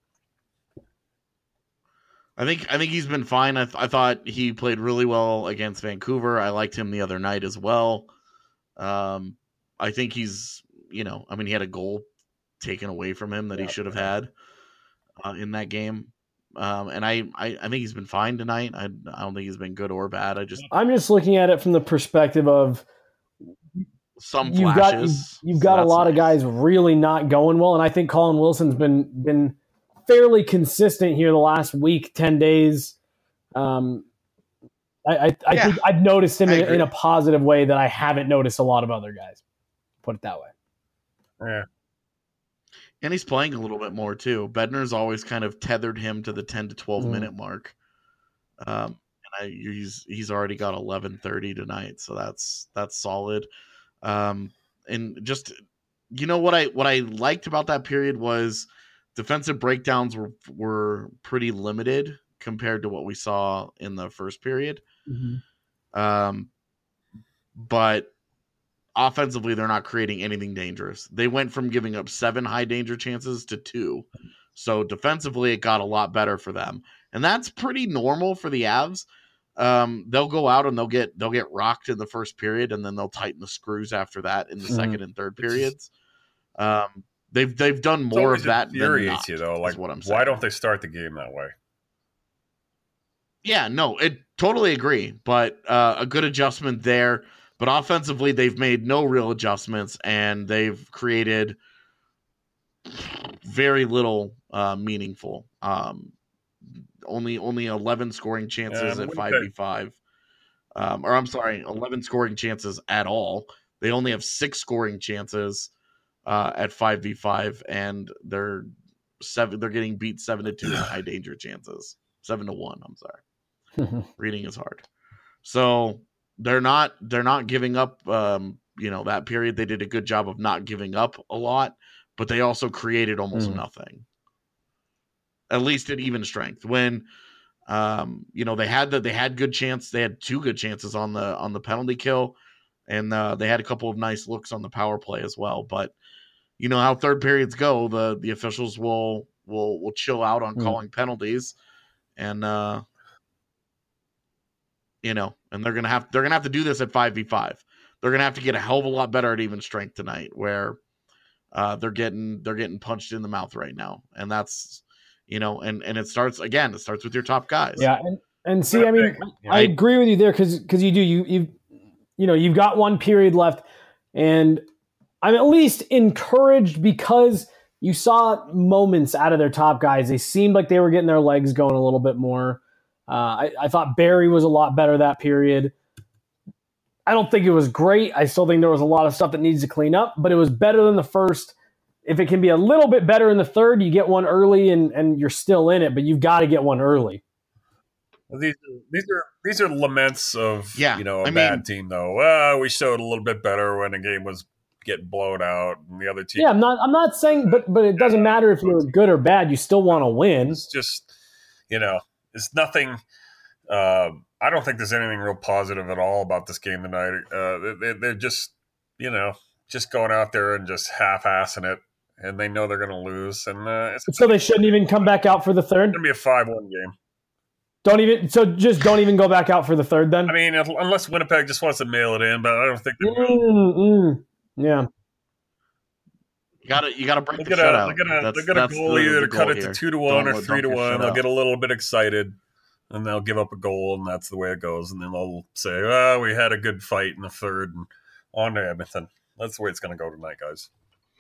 [SPEAKER 8] I think I think he's been fine. I, th- I thought he played really well against Vancouver. I liked him the other night as well. Um, I think he's, you know, I mean, he had a goal taken away from him that he
[SPEAKER 6] Yeah.
[SPEAKER 8] should have had uh, in that game. Um, and I, I, I think he's been fine tonight. I, I don't think he's been good or bad. I just
[SPEAKER 6] I'm just looking at it from the perspective of
[SPEAKER 8] some
[SPEAKER 6] you've got
[SPEAKER 8] flashes.
[SPEAKER 6] you've, you've
[SPEAKER 8] so
[SPEAKER 6] got a
[SPEAKER 8] that's
[SPEAKER 6] lot of
[SPEAKER 8] nice.
[SPEAKER 6] guys really not going well, and I think Colin Wilson's been been fairly consistent here the last week, ten days. Um, I I, I
[SPEAKER 8] Yeah,
[SPEAKER 6] think I've noticed him
[SPEAKER 8] I
[SPEAKER 6] in,
[SPEAKER 8] agree.
[SPEAKER 6] in a positive way that I haven't noticed a lot of other guys. Put it that way.
[SPEAKER 7] Yeah.
[SPEAKER 8] And he's playing a little bit more too. Bednar's always kind of tethered him to the ten to twelve
[SPEAKER 6] Mm.
[SPEAKER 8] minute mark. Um, and I, he's he's already got eleven thirty tonight, so that's that's solid. Um, and just you know what I what I liked about that period was defensive breakdowns were were pretty limited compared to what we saw in the first period. Um, but offensively, they're not creating anything dangerous. They went from giving up seven high danger chances to two. So defensively, it got a lot better for them. And that's pretty normal for the Avs. Um, they'll go out and they'll get they'll get rocked in the first period, and then they'll tighten the screws after that in the
[SPEAKER 6] Mhm.
[SPEAKER 8] second and third periods. Um, they've they've done
[SPEAKER 7] It's
[SPEAKER 8] more
[SPEAKER 7] always
[SPEAKER 8] of that than
[SPEAKER 7] infuriates
[SPEAKER 8] not,
[SPEAKER 7] you, though.
[SPEAKER 8] is
[SPEAKER 7] Like,
[SPEAKER 8] what I'm saying.
[SPEAKER 7] why don't they start the game that way?
[SPEAKER 8] Yeah, no, it totally agree. But uh, a good adjustment there. But offensively, they've made no real adjustments, and they've created very little uh, meaningful. Um, only only eleven scoring chances
[SPEAKER 7] Yeah,
[SPEAKER 8] at
[SPEAKER 7] we
[SPEAKER 8] five
[SPEAKER 7] could-
[SPEAKER 8] v five. Um, or I'm sorry, eleven scoring chances at all. They only have six scoring chances uh, at five v five, and they're seven. They're getting beat seven to two in high danger chances. Seven to one. I'm sorry. Reading is hard. So they're not they're not giving up. Um, you know, that period they did a good job of not giving up a lot, but they also created almost mm. nothing. At least at even strength. When um, you know, they had the they had good chance. They had two good chances on the on the penalty kill, and uh, they had a couple of nice looks on the power play as well. But you know how third periods go, the the officials will will will chill out on mm. calling penalties, and uh, you know, and they're gonna have they're gonna have to do this at five v five. They're gonna have to get a hell of a lot better at even strength tonight, where uh, they're getting they're getting punched in the mouth right now, and that's you know, and and it starts again. It starts with your top guys.
[SPEAKER 6] Yeah, and, and see, I mean, I agree with you there because because you do you you you know you've got one period left, and I'm at least encouraged because you saw moments out of their top guys. They seemed like they were getting their legs going a little bit more. Uh, I, I thought Barry was a lot better that period. I don't think it was great. I still think there was a lot of stuff that needs to clean up, but it was better than the first. If it can be a little bit better in the third, you get one early and, and you're still in it, but you've got to get one early.
[SPEAKER 7] These these are these are laments of
[SPEAKER 8] yeah,
[SPEAKER 7] you know a
[SPEAKER 8] I
[SPEAKER 7] bad
[SPEAKER 8] mean,
[SPEAKER 7] team though. Well, we showed a little bit better when the game was getting blown out, and the other team.
[SPEAKER 6] Yeah, I'm not I'm not saying, but but it doesn't matter if you're good or bad. You still want to win.
[SPEAKER 7] It's just you know, it's nothing. Uh, I don't think there's anything real positive at all about this game tonight. Uh, they, they're just you know just going out there and just half-assing it, and they know they're going to lose. And uh, it's,
[SPEAKER 6] so they shouldn't even come back out for the third.
[SPEAKER 7] It's going to be a five one game.
[SPEAKER 6] Don't even so just don't even go back out for the third then.
[SPEAKER 7] I mean, unless Winnipeg just wants to mail it in, but I don't think they will.
[SPEAKER 6] Mm, mm, yeah,
[SPEAKER 8] you got to you got to break
[SPEAKER 7] they're
[SPEAKER 8] the
[SPEAKER 7] gonna,
[SPEAKER 8] shutout.
[SPEAKER 7] They're gonna,
[SPEAKER 8] that's,
[SPEAKER 7] they're gonna goal
[SPEAKER 8] the,
[SPEAKER 7] either
[SPEAKER 8] the
[SPEAKER 7] cut it
[SPEAKER 8] here.
[SPEAKER 7] to two to one
[SPEAKER 8] don't
[SPEAKER 7] or three to one. They'll
[SPEAKER 8] out.
[SPEAKER 7] get a little bit excited, and they'll give up a goal, and that's the way it goes. And then they'll say, "Oh, we had a good fight in the third, and on to Edmonton." That's the way it's going to go tonight, guys.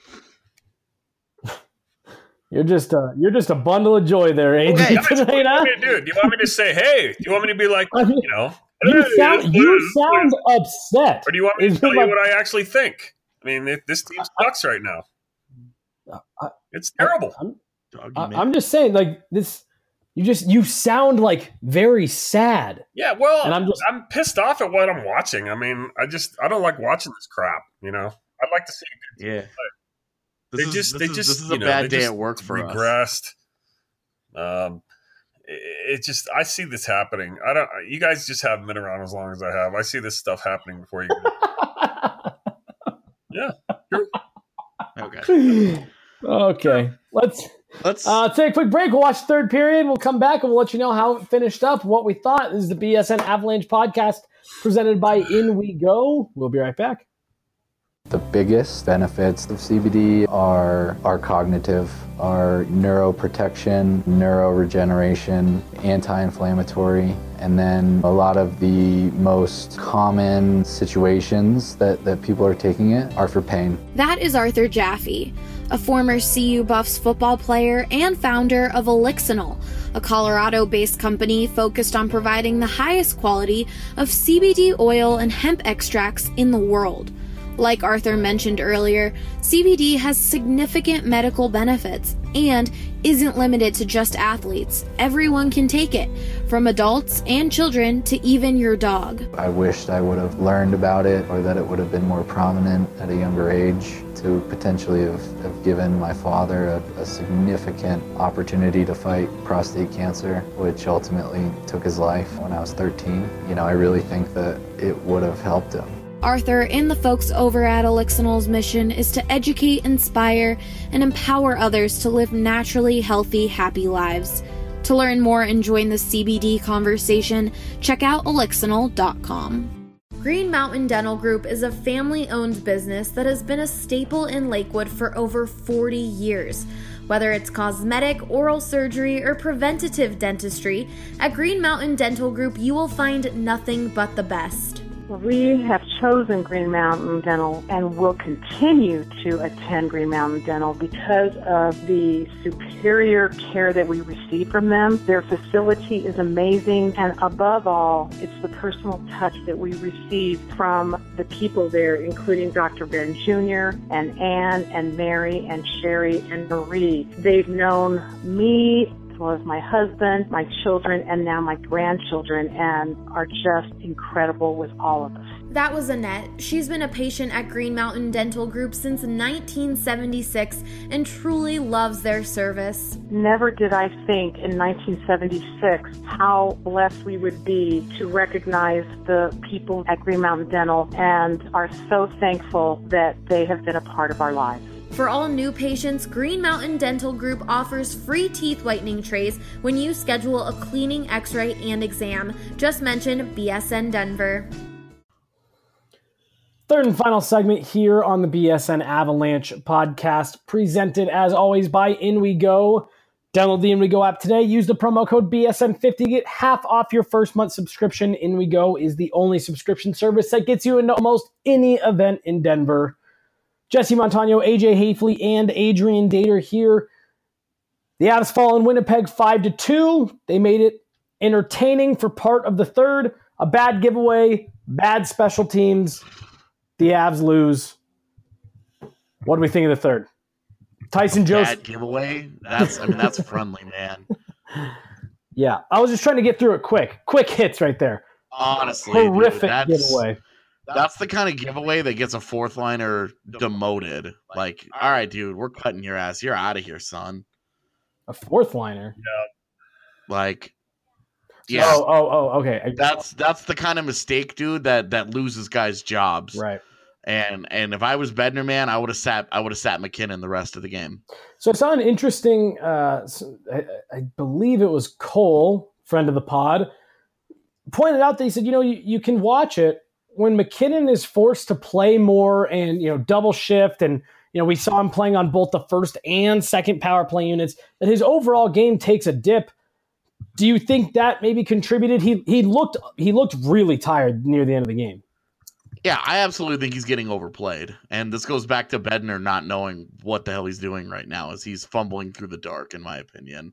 [SPEAKER 6] You're just a you're just a bundle of joy there, A J.
[SPEAKER 7] Okay,
[SPEAKER 6] tonight, huh?
[SPEAKER 7] Dude, do you want me to say, "Hey"? Do you want me to be like,
[SPEAKER 6] I mean,
[SPEAKER 7] you know?
[SPEAKER 6] You
[SPEAKER 7] hey,
[SPEAKER 6] sound you sound upset.
[SPEAKER 7] Or do you want me to
[SPEAKER 6] Is
[SPEAKER 7] tell you
[SPEAKER 6] like,
[SPEAKER 7] what I actually think? I mean, this team sucks right now.
[SPEAKER 6] I,
[SPEAKER 7] it's terrible.
[SPEAKER 6] I'm, I, I'm just saying, like this. You just you sound like very sad.
[SPEAKER 7] Yeah, well,
[SPEAKER 6] and I'm just
[SPEAKER 7] I'm pissed off at what I'm watching. I mean, I just I don't like watching this crap. You know, I'd like to see a good team
[SPEAKER 8] yeah.
[SPEAKER 7] play.
[SPEAKER 8] This
[SPEAKER 7] they
[SPEAKER 8] is,
[SPEAKER 7] just,
[SPEAKER 8] this
[SPEAKER 7] they
[SPEAKER 8] is,
[SPEAKER 7] just,
[SPEAKER 8] this is
[SPEAKER 7] you
[SPEAKER 8] a
[SPEAKER 7] know,
[SPEAKER 8] bad
[SPEAKER 7] they
[SPEAKER 8] day
[SPEAKER 7] just
[SPEAKER 8] at work for
[SPEAKER 7] regressed.
[SPEAKER 8] us.
[SPEAKER 7] Um, it, it just, I see this happening. I don't. You guys just haven't been around as long as I have. I see this stuff happening before you. Yeah. True.
[SPEAKER 8] Okay.
[SPEAKER 6] Okay. Let's
[SPEAKER 8] let's
[SPEAKER 6] uh, take a quick break. We'll watch the third period. We'll come back and we'll let you know how it finished up, what we thought. This is the B S N Avalanche podcast presented by In We Go. We'll be right back.
[SPEAKER 9] The biggest benefits of C B D are are cognitive, are neuroprotection, neuroregeneration, anti-inflammatory, and then a lot of the most common situations that, that people are taking it are for pain.
[SPEAKER 10] That is Arthur Jaffe, a former C U Buffs football player and founder of Elixinol, a Colorado-based company focused on providing the highest quality of C B D oil and hemp extracts in the world. Like Arthur mentioned earlier, C B D has significant medical benefits and isn't limited to just athletes. Everyone can take it, from adults and children to even your dog.
[SPEAKER 9] I wished I would have learned about it, or that it would have been more prominent at a younger age, to potentially have, have given my father a, a significant opportunity to fight prostate cancer, which ultimately took his life when I was thirteen. You know, I really think that it would have helped him.
[SPEAKER 10] Arthur and the folks over at Elixinol's mission is to educate, inspire, and empower others to live naturally healthy, happy lives. To learn more and join the C B D conversation, check out elixinol dot com. Green Mountain Dental Group is a family-owned business that has been a staple in Lakewood for over forty years. Whether it's cosmetic, oral surgery, or preventative dentistry, at Green Mountain Dental Group you will find nothing but the best.
[SPEAKER 11] We have chosen Green Mountain Dental and will continue to attend Green Mountain Dental because of the superior care that we receive from them. Their facility is amazing, and above all, it's the personal touch that we receive from the people there, including Doctor Ben Junior and Ann and Mary and Sherry and Marie. They've known me as well as my husband, my children, and now my grandchildren, and are just incredible with all of us.
[SPEAKER 10] That was Annette. She's been a patient at Green Mountain Dental Group since nineteen seventy-six and truly loves their service.
[SPEAKER 11] Never did I think in nineteen seventy-six how blessed we would be to recognize the people at Green Mountain Dental, and are so thankful that they have been a part of our lives.
[SPEAKER 10] For all new patients, Green Mountain Dental Group offers free teeth whitening trays when you schedule a cleaning, x-ray, and exam. Just mention B S N Denver.
[SPEAKER 6] Third and final segment here on the B S N Avalanche podcast, presented as always by In We Go. Download the In We Go app today. Use the promo code B S N fifty to get half off your first month subscription. In We Go is the only subscription service that gets you into almost any event in Denver. Jesse Montano, A J Hafley, and Adrian Dater here. The Avs fall in Winnipeg five to two. They made it entertaining for part of the third. A bad giveaway, bad special teams. The Avs lose. What do we think of the third? Tyson Jost.
[SPEAKER 8] Bad giveaway? That's I mean that's friendly, man.
[SPEAKER 6] Yeah, I was just trying to get through it quick. Quick hits right there.
[SPEAKER 8] Honestly,
[SPEAKER 6] horrific
[SPEAKER 8] dude, that's,
[SPEAKER 6] giveaway.
[SPEAKER 8] That's the kind of giveaway that gets a fourth liner demoted. Like, all right, dude, we're cutting your ass. You're out of here, son.
[SPEAKER 6] A fourth liner?
[SPEAKER 7] Yeah.
[SPEAKER 8] Like, yeah.
[SPEAKER 6] Oh, oh, oh, okay.
[SPEAKER 8] That's that's the kind of mistake, dude, that that loses guys' jobs.
[SPEAKER 6] Right.
[SPEAKER 8] And and if I was Bednar, man, I would have sat I would have sat McKinnon the rest of the game.
[SPEAKER 6] So I saw an interesting. Uh, I, I believe it was Cole, friend of the pod, pointed out that he said, you know, you, you can watch it when McKinnon is forced to play more and, you know, double shift, and, you know, we saw him playing on both the first and second power play units, that his overall game takes a dip. Do you think that maybe contributed? He he looked he looked really tired near the end of the game.
[SPEAKER 8] Yeah, I absolutely think he's getting overplayed. And this goes back to Bednar not knowing what the hell he's doing right now, as he's fumbling through the dark, in my opinion.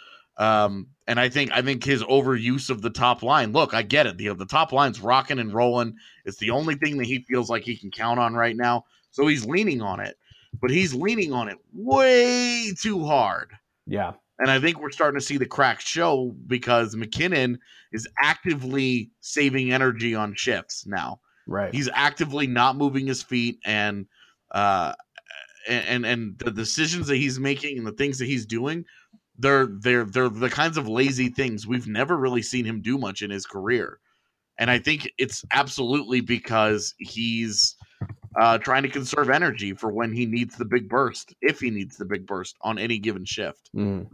[SPEAKER 8] Um, and I think I think his overuse of the top line. Look, I get it. The, the top line's rocking and rolling. It's the only thing that he feels like he can count on right now. So he's leaning on it. But he's leaning on it way too hard.
[SPEAKER 6] Yeah.
[SPEAKER 8] And I think we're starting to see the cracks show because McKinnon is actively saving energy on shifts now.
[SPEAKER 6] Right.
[SPEAKER 8] He's actively not moving his feet, and uh, and and the decisions that he's making and the things that he's doing, they're they're they're the kinds of lazy things we've never really seen him do much in his career. And I think it's absolutely because he's uh, trying to conserve energy for when he needs the big burst, if he needs the big burst on any given shift.
[SPEAKER 6] Mm.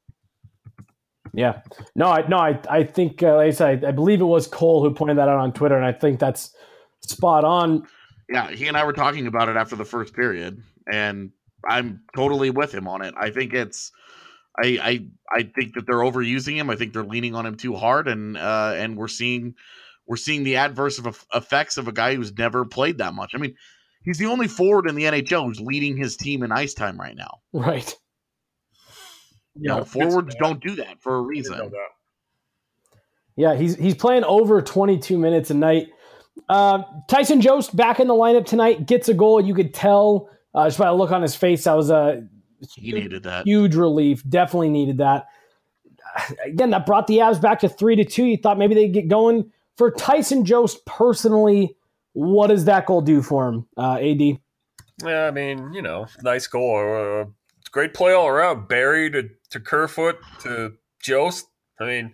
[SPEAKER 6] Yeah, no, I no, I I think uh, like I said, I, I believe it was Cole who pointed that out on Twitter, and I think that's spot on.
[SPEAKER 8] Yeah, he and I were talking about it after the first period, and I'm totally with him on it. I think it's, I I I think that they're overusing him. I think they're leaning on him too hard, and uh, and we're seeing we're seeing the adverse of effects of a guy who's never played that much. I mean, he's the only forward in the N H L who's leading his team in ice time right now.
[SPEAKER 6] Right.
[SPEAKER 8] You know, forwards don't do that for a reason.
[SPEAKER 6] Yeah, he's he's playing over twenty-two minutes a night. Uh, Tyson Jost back in the lineup tonight, gets a goal. You could tell uh, just by the look on his face, that was a
[SPEAKER 8] he needed that
[SPEAKER 6] huge relief. Definitely needed that. Again, that brought the Avs back to three to two. You thought maybe they'd get going. For Tyson Jost personally, what does that goal do for him, uh, A D?
[SPEAKER 7] Yeah, I mean, you know, nice goal. Uh, great play all around. Barry to, to Kerfoot to Jost. I mean,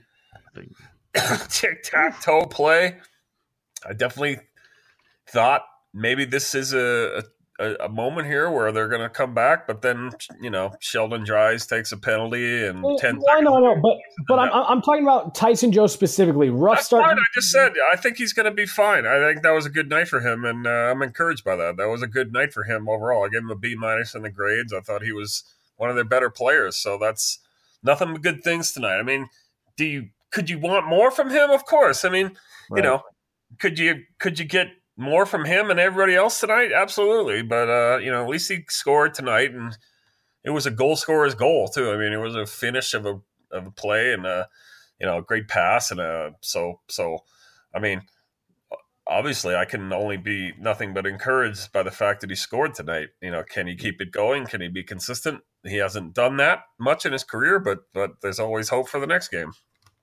[SPEAKER 7] tic-tac-toe play. I definitely thought maybe this is a, a, a moment here where they're going to come back, but then, you know, Sheldon Dries takes a penalty and
[SPEAKER 6] well,
[SPEAKER 7] ten
[SPEAKER 6] well, I know, I know, but but I'm I'm talking about Tyson Jost specifically. Rough
[SPEAKER 7] That's
[SPEAKER 6] start.
[SPEAKER 7] Fine. I just said I think he's going to be fine. I think that was a good night for him, and uh, I'm encouraged by that. That was a good night for him overall. I gave him a B minus in the grades. I thought he was one of their better players. So that's nothing but good things tonight. I mean, do you could you want more from him? Of course. I mean, right. you know. could you could you get more from him and everybody else tonight? Absolutely, but uh, you know, at least he scored tonight, and it was a goal scorer's goal too. I mean, it was a finish of a of a play and a you know a great pass and a so so. I mean, obviously, I can only be nothing but encouraged by the fact that he scored tonight. You know, can he keep it going? Can he be consistent? He hasn't done that much in his career, but but there's always hope for the next game.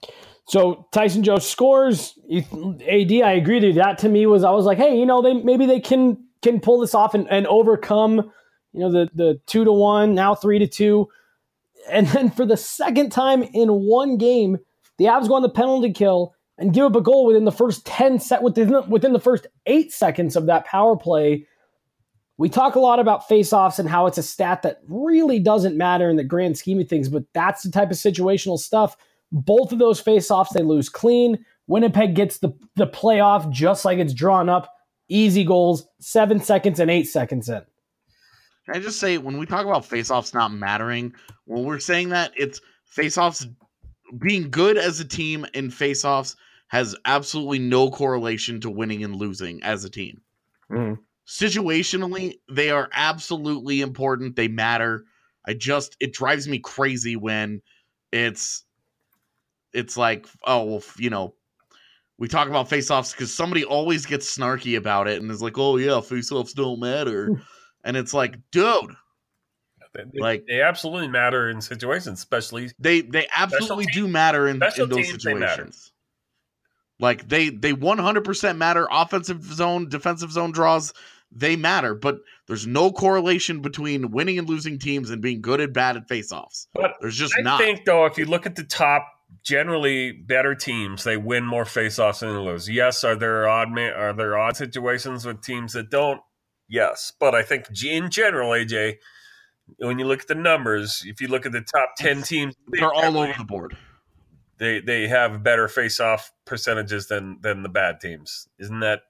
[SPEAKER 6] So Tyson Joe scores. A D, I agree with you. That to me was, I was like, hey, you know, they maybe they can can pull this off and, and overcome, you know, the the two to one, now three to two. And then for the second time in one game, the Avs go on the penalty kill and give up a goal within the first ten set within the, within the first eight seconds of that power play. We talk a lot about faceoffs and how it's a stat that really doesn't matter in the grand scheme of things, but that's the type of situational stuff. Both of those faceoffs, they lose clean. Winnipeg gets the, the playoff just like it's drawn up. Easy goals, seven seconds and eight seconds in.
[SPEAKER 8] Can I just say, when we talk about faceoffs not mattering, when we're saying that, it's faceoffs being good as a team in faceoffs has absolutely no correlation to winning and losing as a team.
[SPEAKER 6] Mm-hmm.
[SPEAKER 8] Situationally, they are absolutely important. They matter. I just, it drives me crazy when it's, it's like, oh, well, you know, we talk about faceoffs because somebody always gets snarky about it and is like, oh yeah, faceoffs don't matter. And it's like, dude,
[SPEAKER 7] They,
[SPEAKER 8] like
[SPEAKER 7] they absolutely matter in situations, especially
[SPEAKER 8] they they absolutely do matter in, in those situations. Like they they one hundred percent matter. Offensive zone, defensive zone draws, they matter, but there's no correlation between winning and losing teams and being good and bad at faceoffs.
[SPEAKER 7] But
[SPEAKER 8] there's just
[SPEAKER 7] I
[SPEAKER 8] not.
[SPEAKER 7] I think though, if you look at the top, generally better teams, they win more faceoffs than they lose. Yes, are there odd ma- are there odd situations with teams that don't? Yes, but I think in general, A J, when you look at the numbers, if you look at the top ten teams,
[SPEAKER 8] they're all over the board.
[SPEAKER 7] They they have better face-off percentages than than the bad teams. Isn't that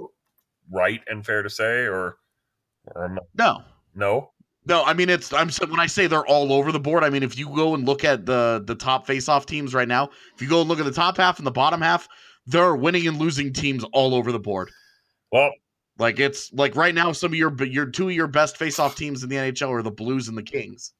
[SPEAKER 7] right and fair to say? Or, or am I,
[SPEAKER 8] no,
[SPEAKER 7] no,
[SPEAKER 8] no. I mean, it's I'm when I say they're all over the board. I mean, if you go and look at the the top face-off teams right now, if you go and look at the top half and the bottom half, there are winning and losing teams all over the board.
[SPEAKER 7] Well.
[SPEAKER 8] Like it's like right now, some of your your two of your best face-off teams in the N H L are the Blues and the Kings,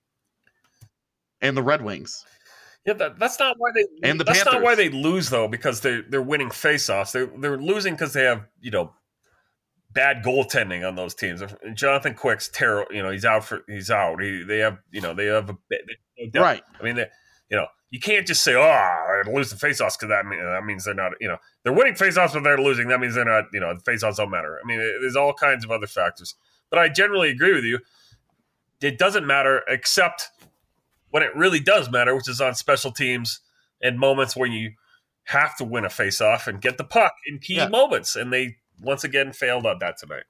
[SPEAKER 8] and the Red Wings.
[SPEAKER 7] Yeah, that, that's not why they.
[SPEAKER 8] And the
[SPEAKER 7] that's
[SPEAKER 8] Panthers.
[SPEAKER 7] not why they lose though, because they they're winning face-offs. They they're losing because they have you know bad goaltending on those teams. Jonathan Quick's terrible. You know he's out for he's out. He, they have you know they have a they,
[SPEAKER 8] right.
[SPEAKER 7] I mean they, you know. You can't just say, "Oh, they're losing faceoffs," because that mean, that means they're not. You know, they're winning faceoffs, but they're losing. That means they're not. You know, the faceoffs don't matter. I mean, it, there's all kinds of other factors. But I generally agree with you. It doesn't matter except when it really does matter, which is on special teams and moments when you have to win a faceoff and get the puck in key yeah. moments. And they once again failed on that tonight.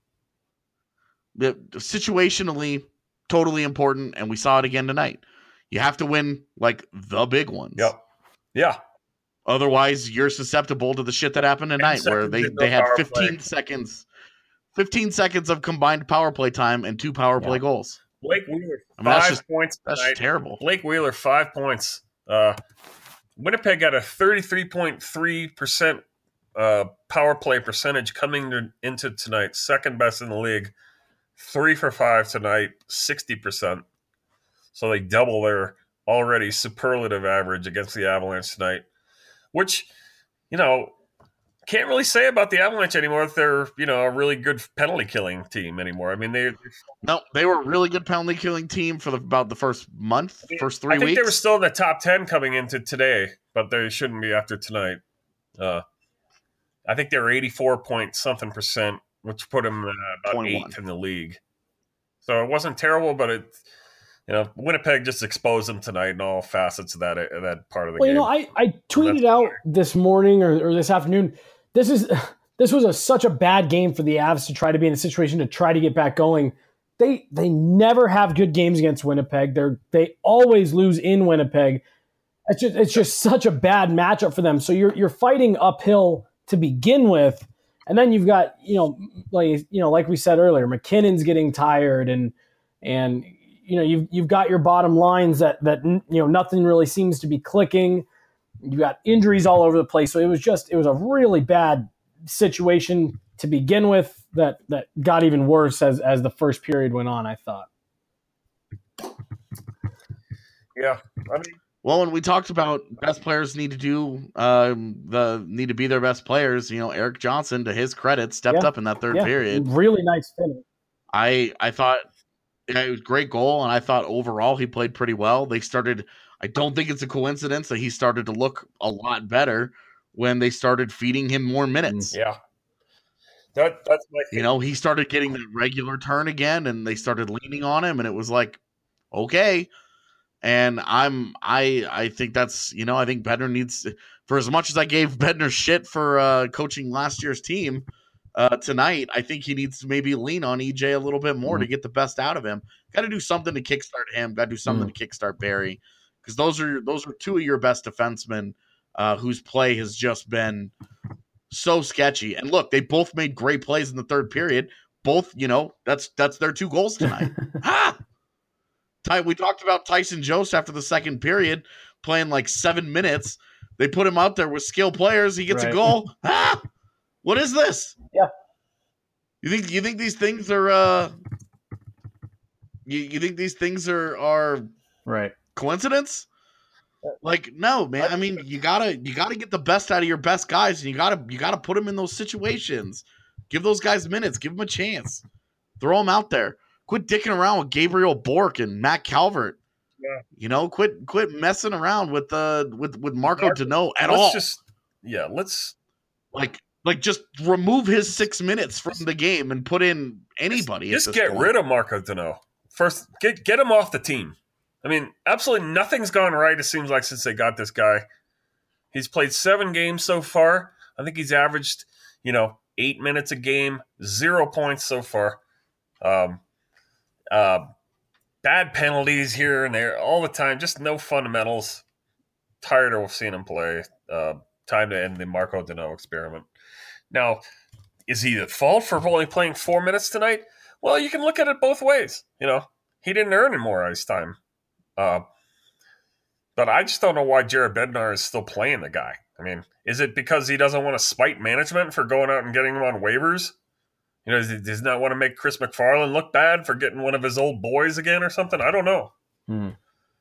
[SPEAKER 8] The, situationally, totally important, and we saw it again tonight. You have to win like the big ones.
[SPEAKER 7] Yep. Yeah.
[SPEAKER 8] Otherwise, you're susceptible to the shit that happened tonight, where they, they had fifteen play. seconds, fifteen seconds of combined power play time and two power yeah. play goals.
[SPEAKER 7] Blake Wheeler,
[SPEAKER 8] I mean,
[SPEAKER 7] five
[SPEAKER 8] that's just,
[SPEAKER 7] points.
[SPEAKER 8] That's
[SPEAKER 7] tonight.
[SPEAKER 8] Just terrible.
[SPEAKER 7] Blake Wheeler, five points. Uh, Winnipeg got a thirty-three point three percent uh, power play percentage coming to, into tonight, second best in the league. Three for five tonight, sixty percent. So they double their already superlative average against the Avalanche tonight, which, you know, can't really say about the Avalanche anymore if they're, you know, a really good penalty killing team anymore. I mean, they
[SPEAKER 8] no, they were a really good penalty killing team for the, about the first month, I mean, first three
[SPEAKER 7] I think
[SPEAKER 8] weeks.
[SPEAKER 7] They were still in the top ten coming into today, but they shouldn't be after tonight. Uh, I think they were eighty-four point something percent, which put them uh, about
[SPEAKER 8] twenty-one
[SPEAKER 7] eighth in the league. So it wasn't terrible, but it. You know, Winnipeg just exposed them tonight in all facets of that uh, that part of the
[SPEAKER 6] well,
[SPEAKER 7] game.
[SPEAKER 6] Well, you know, I, I tweeted out this morning or, or this afternoon, this is this was a, such a bad game for the Avs to try to be in a situation to try to get back going. They they never have good games against Winnipeg. They're they always lose in Winnipeg. It's just it's just such a bad matchup for them. So you're you're fighting uphill to begin with, and then you've got you know like you know like we said earlier, McKinnon's getting tired and and. You know, you've you've got your bottom lines that that you know nothing really seems to be clicking. You got injuries all over the place, so it was just it was a really bad situation to begin with that that got even worse as as the first period went on, I thought.
[SPEAKER 7] Yeah, I mean,
[SPEAKER 8] well, when we talked about best players need to do um, the need to be their best players, you know, Eric Johnson, to his credit, stepped
[SPEAKER 6] Yeah.
[SPEAKER 8] up in that third
[SPEAKER 6] Yeah.
[SPEAKER 8] period.
[SPEAKER 6] Really nice finish.
[SPEAKER 8] I I thought yeah, it was a great goal, and I thought overall he played pretty well. They started. I don't think it's a coincidence that he started to look a lot better when they started feeding him more minutes.
[SPEAKER 7] yeah. That that's my
[SPEAKER 8] You know, he started getting that regular turn again, and they started leaning on him, and it was like, okay. And I'm I I think that's you know I think Bednar needs, for as much as I gave Bednar shit for uh, coaching last year's team uh, tonight, I think he needs to maybe lean on E J a little bit more
[SPEAKER 6] Mm-hmm.
[SPEAKER 8] to get the best out of him. Got to do something to kickstart him. Got to do something
[SPEAKER 6] Mm.
[SPEAKER 8] to kickstart Barry, because those are those are two of your best defensemen uh, whose play has just been so sketchy. And look, they both made great plays in the third period. Both, you know, that's that's their two goals tonight. ha! Ty, we talked about Tyson Jost after the second period playing like seven minutes. They put him out there with skilled players. He gets
[SPEAKER 6] Right.
[SPEAKER 8] a goal. ah! What is this?
[SPEAKER 6] Yeah.
[SPEAKER 8] You think you think these things are uh you, you think these things are are
[SPEAKER 6] Right.
[SPEAKER 8] coincidence? Like, no, man. I mean, you gotta you gotta get the best out of your best guys, and you gotta you gotta put them in those situations. Give those guys minutes. Give them a chance. Throw them out there. Quit dicking around with Gabriel Bork and Matt Calvert.
[SPEAKER 7] Yeah.
[SPEAKER 8] You know, quit quit messing around with uh with with Marco
[SPEAKER 7] Marco-
[SPEAKER 8] Deneau at
[SPEAKER 7] let's
[SPEAKER 8] all.
[SPEAKER 7] just yeah, let's
[SPEAKER 8] like like just remove his six minutes from the game and put in anybody.
[SPEAKER 7] just
[SPEAKER 8] at this
[SPEAKER 7] get
[SPEAKER 8] point.
[SPEAKER 7] rid of Marco Deneau. First, get get him off the team. I mean, absolutely nothing's gone right, it seems like, since they got this guy. He's played seven games so far. I think he's averaged, you know, eight minutes a game, zero points so far. Um, uh, bad penalties here and there all the time, just no fundamentals. Tired of seeing him play. Uh, time to end the Marco Deneau experiment. Now, is he at fault for only playing four minutes tonight? Well, you can look at it both ways. You know, he didn't earn any more ice time. Uh, but I just don't know why Jared Bednar is still playing the guy. I mean, is it because he doesn't want to spite management for going out and getting him on waivers? You know, does he, does he not want to make Chris McFarland look bad for getting one of his old boys again or something? I don't know.
[SPEAKER 6] Hmm.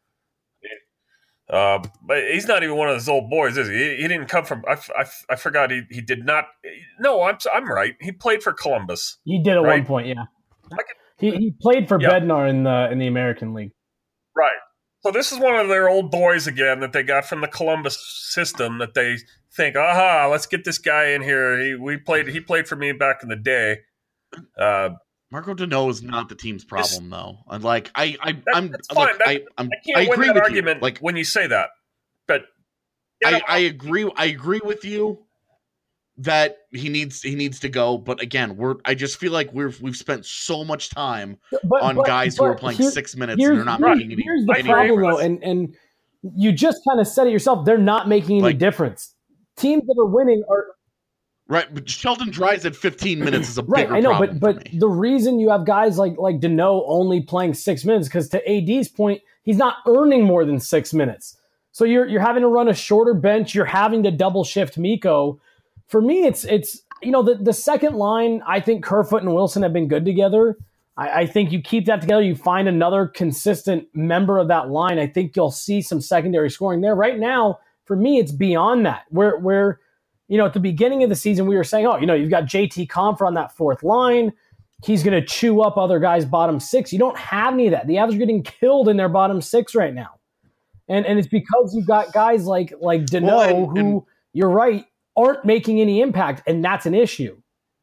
[SPEAKER 7] Uh, but he's not even one of those old boys, is he? He, he didn't come from. I, I, I forgot he, he did not. No, I'm I'm right. He played for Columbus.
[SPEAKER 6] He did at
[SPEAKER 7] Right.
[SPEAKER 6] one point, yeah.
[SPEAKER 7] Like
[SPEAKER 6] He he played for
[SPEAKER 7] Yeah.
[SPEAKER 6] Bednar in the in the American League.
[SPEAKER 7] Right. So this is one of their old boys again that they got from the Columbus system that they think, aha, let's get this guy in here. He we played he played for me back in the day. Uh,
[SPEAKER 8] Marco Deneau is not the team's problem, though. And like, I, I,
[SPEAKER 7] That-
[SPEAKER 8] I'm,
[SPEAKER 7] that's
[SPEAKER 8] look,
[SPEAKER 7] fine. That-
[SPEAKER 8] I, I'm,
[SPEAKER 7] I can't
[SPEAKER 8] I
[SPEAKER 7] win
[SPEAKER 8] agree
[SPEAKER 7] that
[SPEAKER 8] with
[SPEAKER 7] argument
[SPEAKER 8] you. Like,
[SPEAKER 7] when you say that. But you know,
[SPEAKER 8] I, I agree. I agree with you that he needs he needs to go. But again, we're I just feel like we've we've spent so much time
[SPEAKER 6] But,
[SPEAKER 8] on
[SPEAKER 6] but-
[SPEAKER 8] guys who are
[SPEAKER 6] but
[SPEAKER 8] playing
[SPEAKER 6] here-
[SPEAKER 8] six minutes and
[SPEAKER 6] here's,
[SPEAKER 8] they're not
[SPEAKER 6] here's-
[SPEAKER 8] making any.
[SPEAKER 6] here's the
[SPEAKER 8] any
[SPEAKER 6] problem, though,
[SPEAKER 8] difference.
[SPEAKER 6] and and you just kind of said it yourself. They're not making any
[SPEAKER 8] Like-
[SPEAKER 6] difference. Teams that are winning are
[SPEAKER 8] Right, but Sheldon Dries at fifteen minutes is a
[SPEAKER 6] right.
[SPEAKER 8] bigger
[SPEAKER 6] I know,
[SPEAKER 8] problem
[SPEAKER 6] but
[SPEAKER 8] for
[SPEAKER 6] but
[SPEAKER 8] me.
[SPEAKER 6] the reason you have guys like like Deneau only playing six minutes because to A D's point, he's not earning more than six minutes. So you're you're having to run a shorter bench. You're having to double shift Miko. For me, it's it's you know the the second line. I think Kerfoot and Wilson have been good together. I, I think you keep that together. You find another consistent member of that line. I think you'll see some secondary scoring there. Right now, for me, it's beyond that. Where where you know, at the beginning of the season, we were saying, oh, you know, you've got J T Compher on that fourth line. He's going to chew up other guys' bottom six. You don't have any of that. The Avs are getting killed in their bottom six right now. And and it's because you've got guys like like Deneau
[SPEAKER 8] Well, and-
[SPEAKER 6] who,
[SPEAKER 8] and-
[SPEAKER 6] you're right, aren't making any impact, and that's an issue.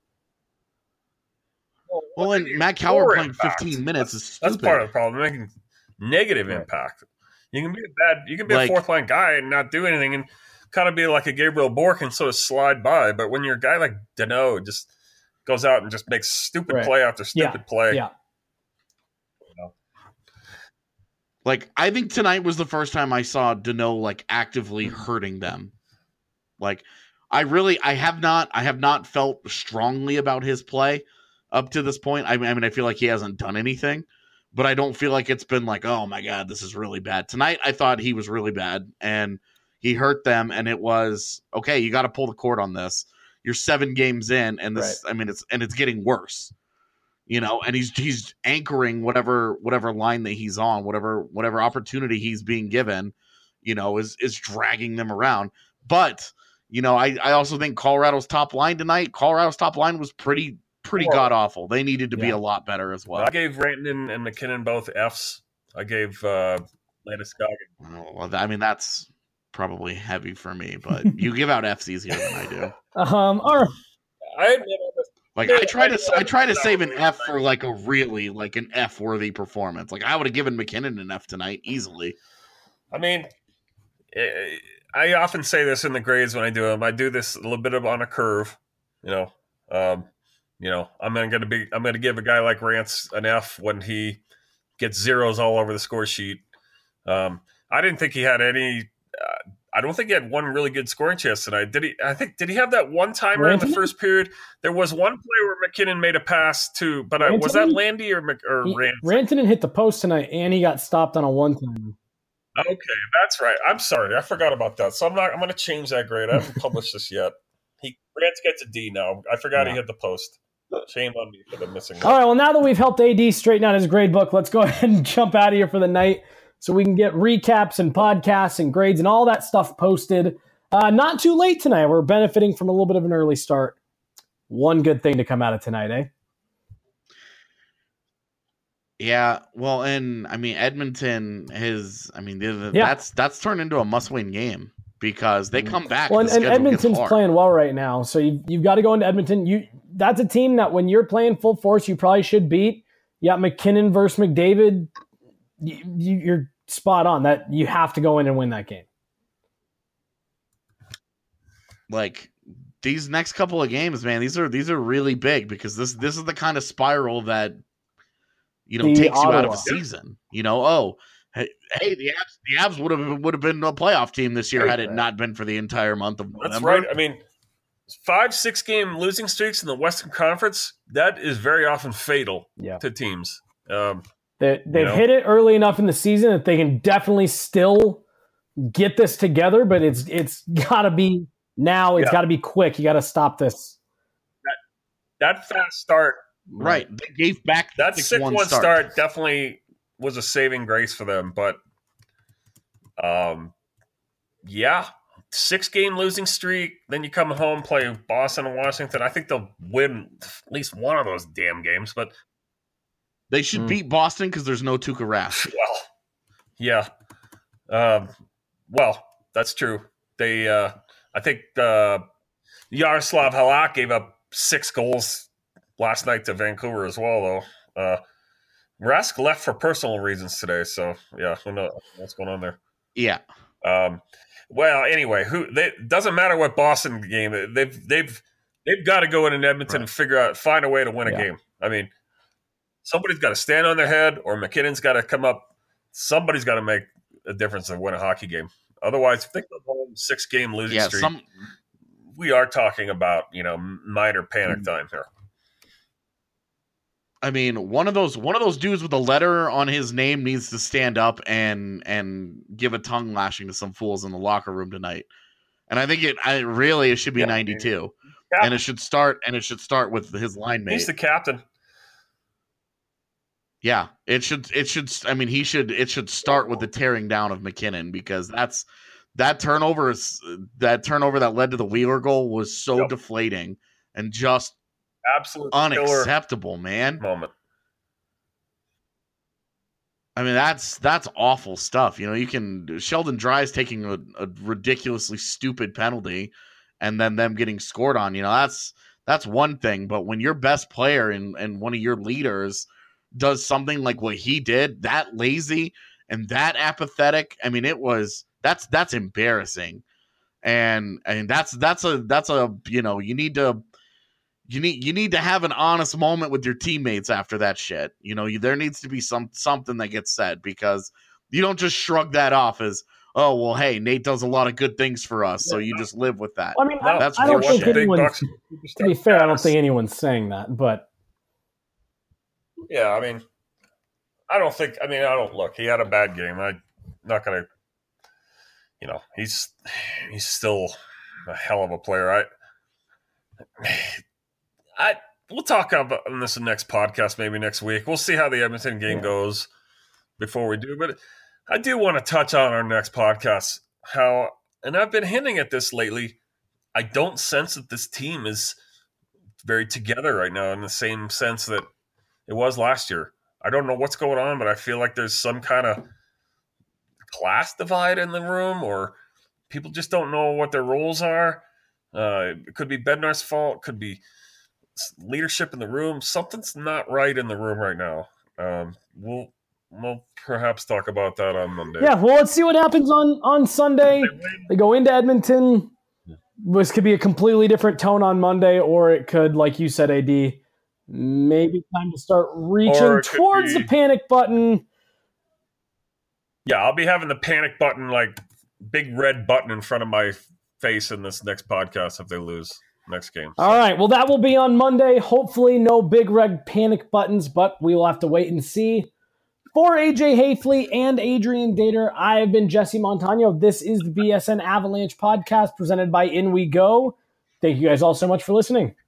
[SPEAKER 8] Well, and Matt Coward
[SPEAKER 7] Poor
[SPEAKER 8] playing
[SPEAKER 7] impact.
[SPEAKER 8] fifteen minutes
[SPEAKER 7] That's,
[SPEAKER 8] is stupid.
[SPEAKER 7] that's part of the problem. Making negative
[SPEAKER 6] Right.
[SPEAKER 7] impact. You can be a bad. You can be
[SPEAKER 8] Like-
[SPEAKER 7] a fourth line guy and not do anything, and kind of be like a Gabriel Bork and sort of slide by. But when you're a guy like Deneau, just goes out and just makes stupid
[SPEAKER 6] Right.
[SPEAKER 7] play after
[SPEAKER 6] Yeah,
[SPEAKER 7] stupid play.
[SPEAKER 6] Yeah.
[SPEAKER 8] Like, I think tonight was the first time I saw Deneau like actively hurting them. Like, I really, I have not, I have not felt strongly about his play up to this point. I mean, I mean, I feel like he hasn't done anything, but I don't feel like it's been like, oh my God, this is really bad. Tonight, I thought he was really bad and he hurt them. And it was, okay, you got to pull the cord on this. you're seven games in, and this,
[SPEAKER 6] Right.
[SPEAKER 8] I mean, it's and it's getting worse, you know. And he's he's anchoring whatever whatever line that he's on, whatever whatever opportunity he's being given, you know, is is dragging them around. But you know, I I also think Colorado's top line tonight, Colorado's top line was pretty pretty god awful. They needed to be
[SPEAKER 6] Yeah.
[SPEAKER 8] a lot better as well.
[SPEAKER 7] I gave Rantanen and McKinnon both Fs. I gave uh, Landeskog.
[SPEAKER 8] Oh, well, I mean, that's probably heavy for me, but you give out Fs easier than I do.
[SPEAKER 6] Um, all right.
[SPEAKER 7] I
[SPEAKER 8] Like I try to, I try to save an F for like a really like an F worthy performance. Like I would have given McKinnon an F tonight easily.
[SPEAKER 7] I mean, eh, I often say this in the grades when I do them. I do this a little bit of on a curve. You know, um, you know, I'm going to be, I'm going to give a guy like Rance an F when he gets zeros all over the score sheet. Um, I didn't think he had any. Uh, I don't think he had one really good scoring chance tonight. Did he? I think did he have that one timer in the first period? There was one play where McKinnon made a pass to, but I, was that Landy or Mc, or
[SPEAKER 6] He,
[SPEAKER 7] Rance?
[SPEAKER 6] Rantanen hit the post tonight, and he got stopped on a one-time.
[SPEAKER 7] Okay, that's right. I'm sorry, I forgot about that. So I'm not. I'm going to change that grade. I haven't published this yet. He Rance gets a D now. I forgot
[SPEAKER 6] Yeah.
[SPEAKER 7] he hit the post. Shame on me for the missing.
[SPEAKER 6] All right, well, now that we've helped A D straighten out his grade book, let's go ahead and jump out of here for the night so we can get recaps and podcasts and grades and all that stuff posted. Uh, not too late tonight. We're benefiting from a little bit of an early start. One good thing to come out of tonight, eh?
[SPEAKER 8] Yeah, well, and I mean Edmonton is. I mean, the- the-
[SPEAKER 6] Yeah.
[SPEAKER 8] that's that's turned into a must-win game because they come back.
[SPEAKER 6] Well,
[SPEAKER 8] and,
[SPEAKER 6] and,
[SPEAKER 8] the
[SPEAKER 6] and
[SPEAKER 8] schedule gets
[SPEAKER 6] Edmonton's
[SPEAKER 8] hard.
[SPEAKER 6] playing well right now, so you've, you've got to go into Edmonton. You That's a team that when you're playing full force, you probably should beat. You got McKinnon versus McDavid. You, you, you're spot on. That you have to go in and win that game.
[SPEAKER 8] Like these next couple of games, man, these are these are really big because this this is the kind of spiral that you know
[SPEAKER 6] The
[SPEAKER 8] takes you out of
[SPEAKER 6] Ottawa.
[SPEAKER 8] a season. You know, oh, hey, hey the Avs, the Avs would have would have been a playoff team this year had it not been for the entire month of November.
[SPEAKER 7] That's right. I mean, five, six game losing streaks in the Western Conference, that is very often fatal
[SPEAKER 6] Yeah.
[SPEAKER 7] to teams. Um,
[SPEAKER 6] They, they've
[SPEAKER 7] you know?
[SPEAKER 6] hit it early enough in the season that they can definitely still get this together, but it's it's got to be now. It's
[SPEAKER 7] Yeah.
[SPEAKER 6] got to be quick. You got to stop this.
[SPEAKER 7] that fast start,
[SPEAKER 8] Right. They gave back
[SPEAKER 7] that
[SPEAKER 8] the
[SPEAKER 7] six one
[SPEAKER 8] start.
[SPEAKER 7] start definitely was a saving grace for them. But, um, yeah, six game losing streak. Then you come home, play Boston and Washington. I think they'll win at least one of those damn games. But
[SPEAKER 8] They should
[SPEAKER 6] Mm.
[SPEAKER 8] beat Boston because there's no Tuukka Rask.
[SPEAKER 7] well, yeah, um, well, that's true. They, uh, I think uh, Yaroslav Halak gave up six goals last night to Vancouver as well, though. Uh, Rask left for personal reasons today, so yeah, who knows what's going on there.
[SPEAKER 8] Yeah.
[SPEAKER 7] Um, well, anyway, who they doesn't matter what Boston game they've they've they've got to go in in Edmonton and figure out find a way to win a
[SPEAKER 6] Yeah.
[SPEAKER 7] game. I mean, somebody's got to stand on their head, or McKinnon's got to come up. Somebody's got to make a difference and win a hockey game. Otherwise, if they go home six game losing
[SPEAKER 8] Yeah,
[SPEAKER 7] streak,
[SPEAKER 8] some
[SPEAKER 7] we are talking about you know minor panic time here.
[SPEAKER 8] I mean, one of those one of those dudes with a letter on his name needs to stand up and and give a tongue lashing to some fools in the locker room tonight. And I think it I really it should be
[SPEAKER 7] Yeah.
[SPEAKER 8] ninety-two.
[SPEAKER 7] Yeah.
[SPEAKER 8] And it should start and it should start with his line mate.
[SPEAKER 7] He's the captain.
[SPEAKER 8] Yeah, it should. It should. I mean, he should. It should start with the tearing down of McKinnon because that's that turnover is that turnover that led to the Wheeler goal was so
[SPEAKER 7] Yep.
[SPEAKER 8] deflating and just
[SPEAKER 7] Absolute killer
[SPEAKER 8] unacceptable, man.
[SPEAKER 7] moment.
[SPEAKER 8] I mean, that's that's awful stuff. You know, you can Sheldon Dries taking a, a ridiculously stupid penalty, and then them getting scored on. You know, that's that's one thing. But when your best player and and one of your leaders does something like what he did, that lazy and that apathetic, I mean, it was that's that's embarrassing. And and that's that's a that's a you know, you need to you need you need to have an honest moment with your teammates after that shit. You know, you, there needs to be some something that gets said because you don't just shrug that off as, oh well, hey, Nate does a lot of good things for us, so you just live with that.
[SPEAKER 6] I mean, I,
[SPEAKER 8] That's
[SPEAKER 6] I don't
[SPEAKER 8] horseshit.
[SPEAKER 6] think anyone.
[SPEAKER 7] bucks.
[SPEAKER 6] To be fair, I don't think anyone's saying that, but
[SPEAKER 7] Yeah, I mean, I don't think. I mean, I don't look. He had a bad game. I'm not gonna. You know, he's he's still a hell of a player. I I we'll talk about on this next podcast, maybe next week. We'll see how the Edmonton game yeah. goes before we do. But I do want to touch on our next podcast how, and I've been hinting at this lately, I don't sense that this team is very together right now in the same sense that it was last year. I don't know what's going on, but I feel like there's some kind of class divide in the room, or people just don't know what their roles are. Uh, it could be Bednar's fault. Could be leadership in the room. Something's not right in the room right now. Um, we'll we'll perhaps talk about that on Monday.
[SPEAKER 6] Yeah, well, let's see what happens on, on Sunday. They go into Edmonton. This could be a completely different tone on Monday, or it could, like you said, A D, maybe time to start reaching towards be, the panic button.
[SPEAKER 7] Yeah, I'll be having the panic button, like big red button in front of my face in this next podcast if they lose next game. So.
[SPEAKER 6] All right, well, that will be on Monday. Hopefully no big red panic buttons, but we will have to wait and see. For A J Hayfley and Adrian Dater, I have been Jesse Montano. This is the B S N Avalanche podcast presented by In We Go. Thank you guys all so much for listening.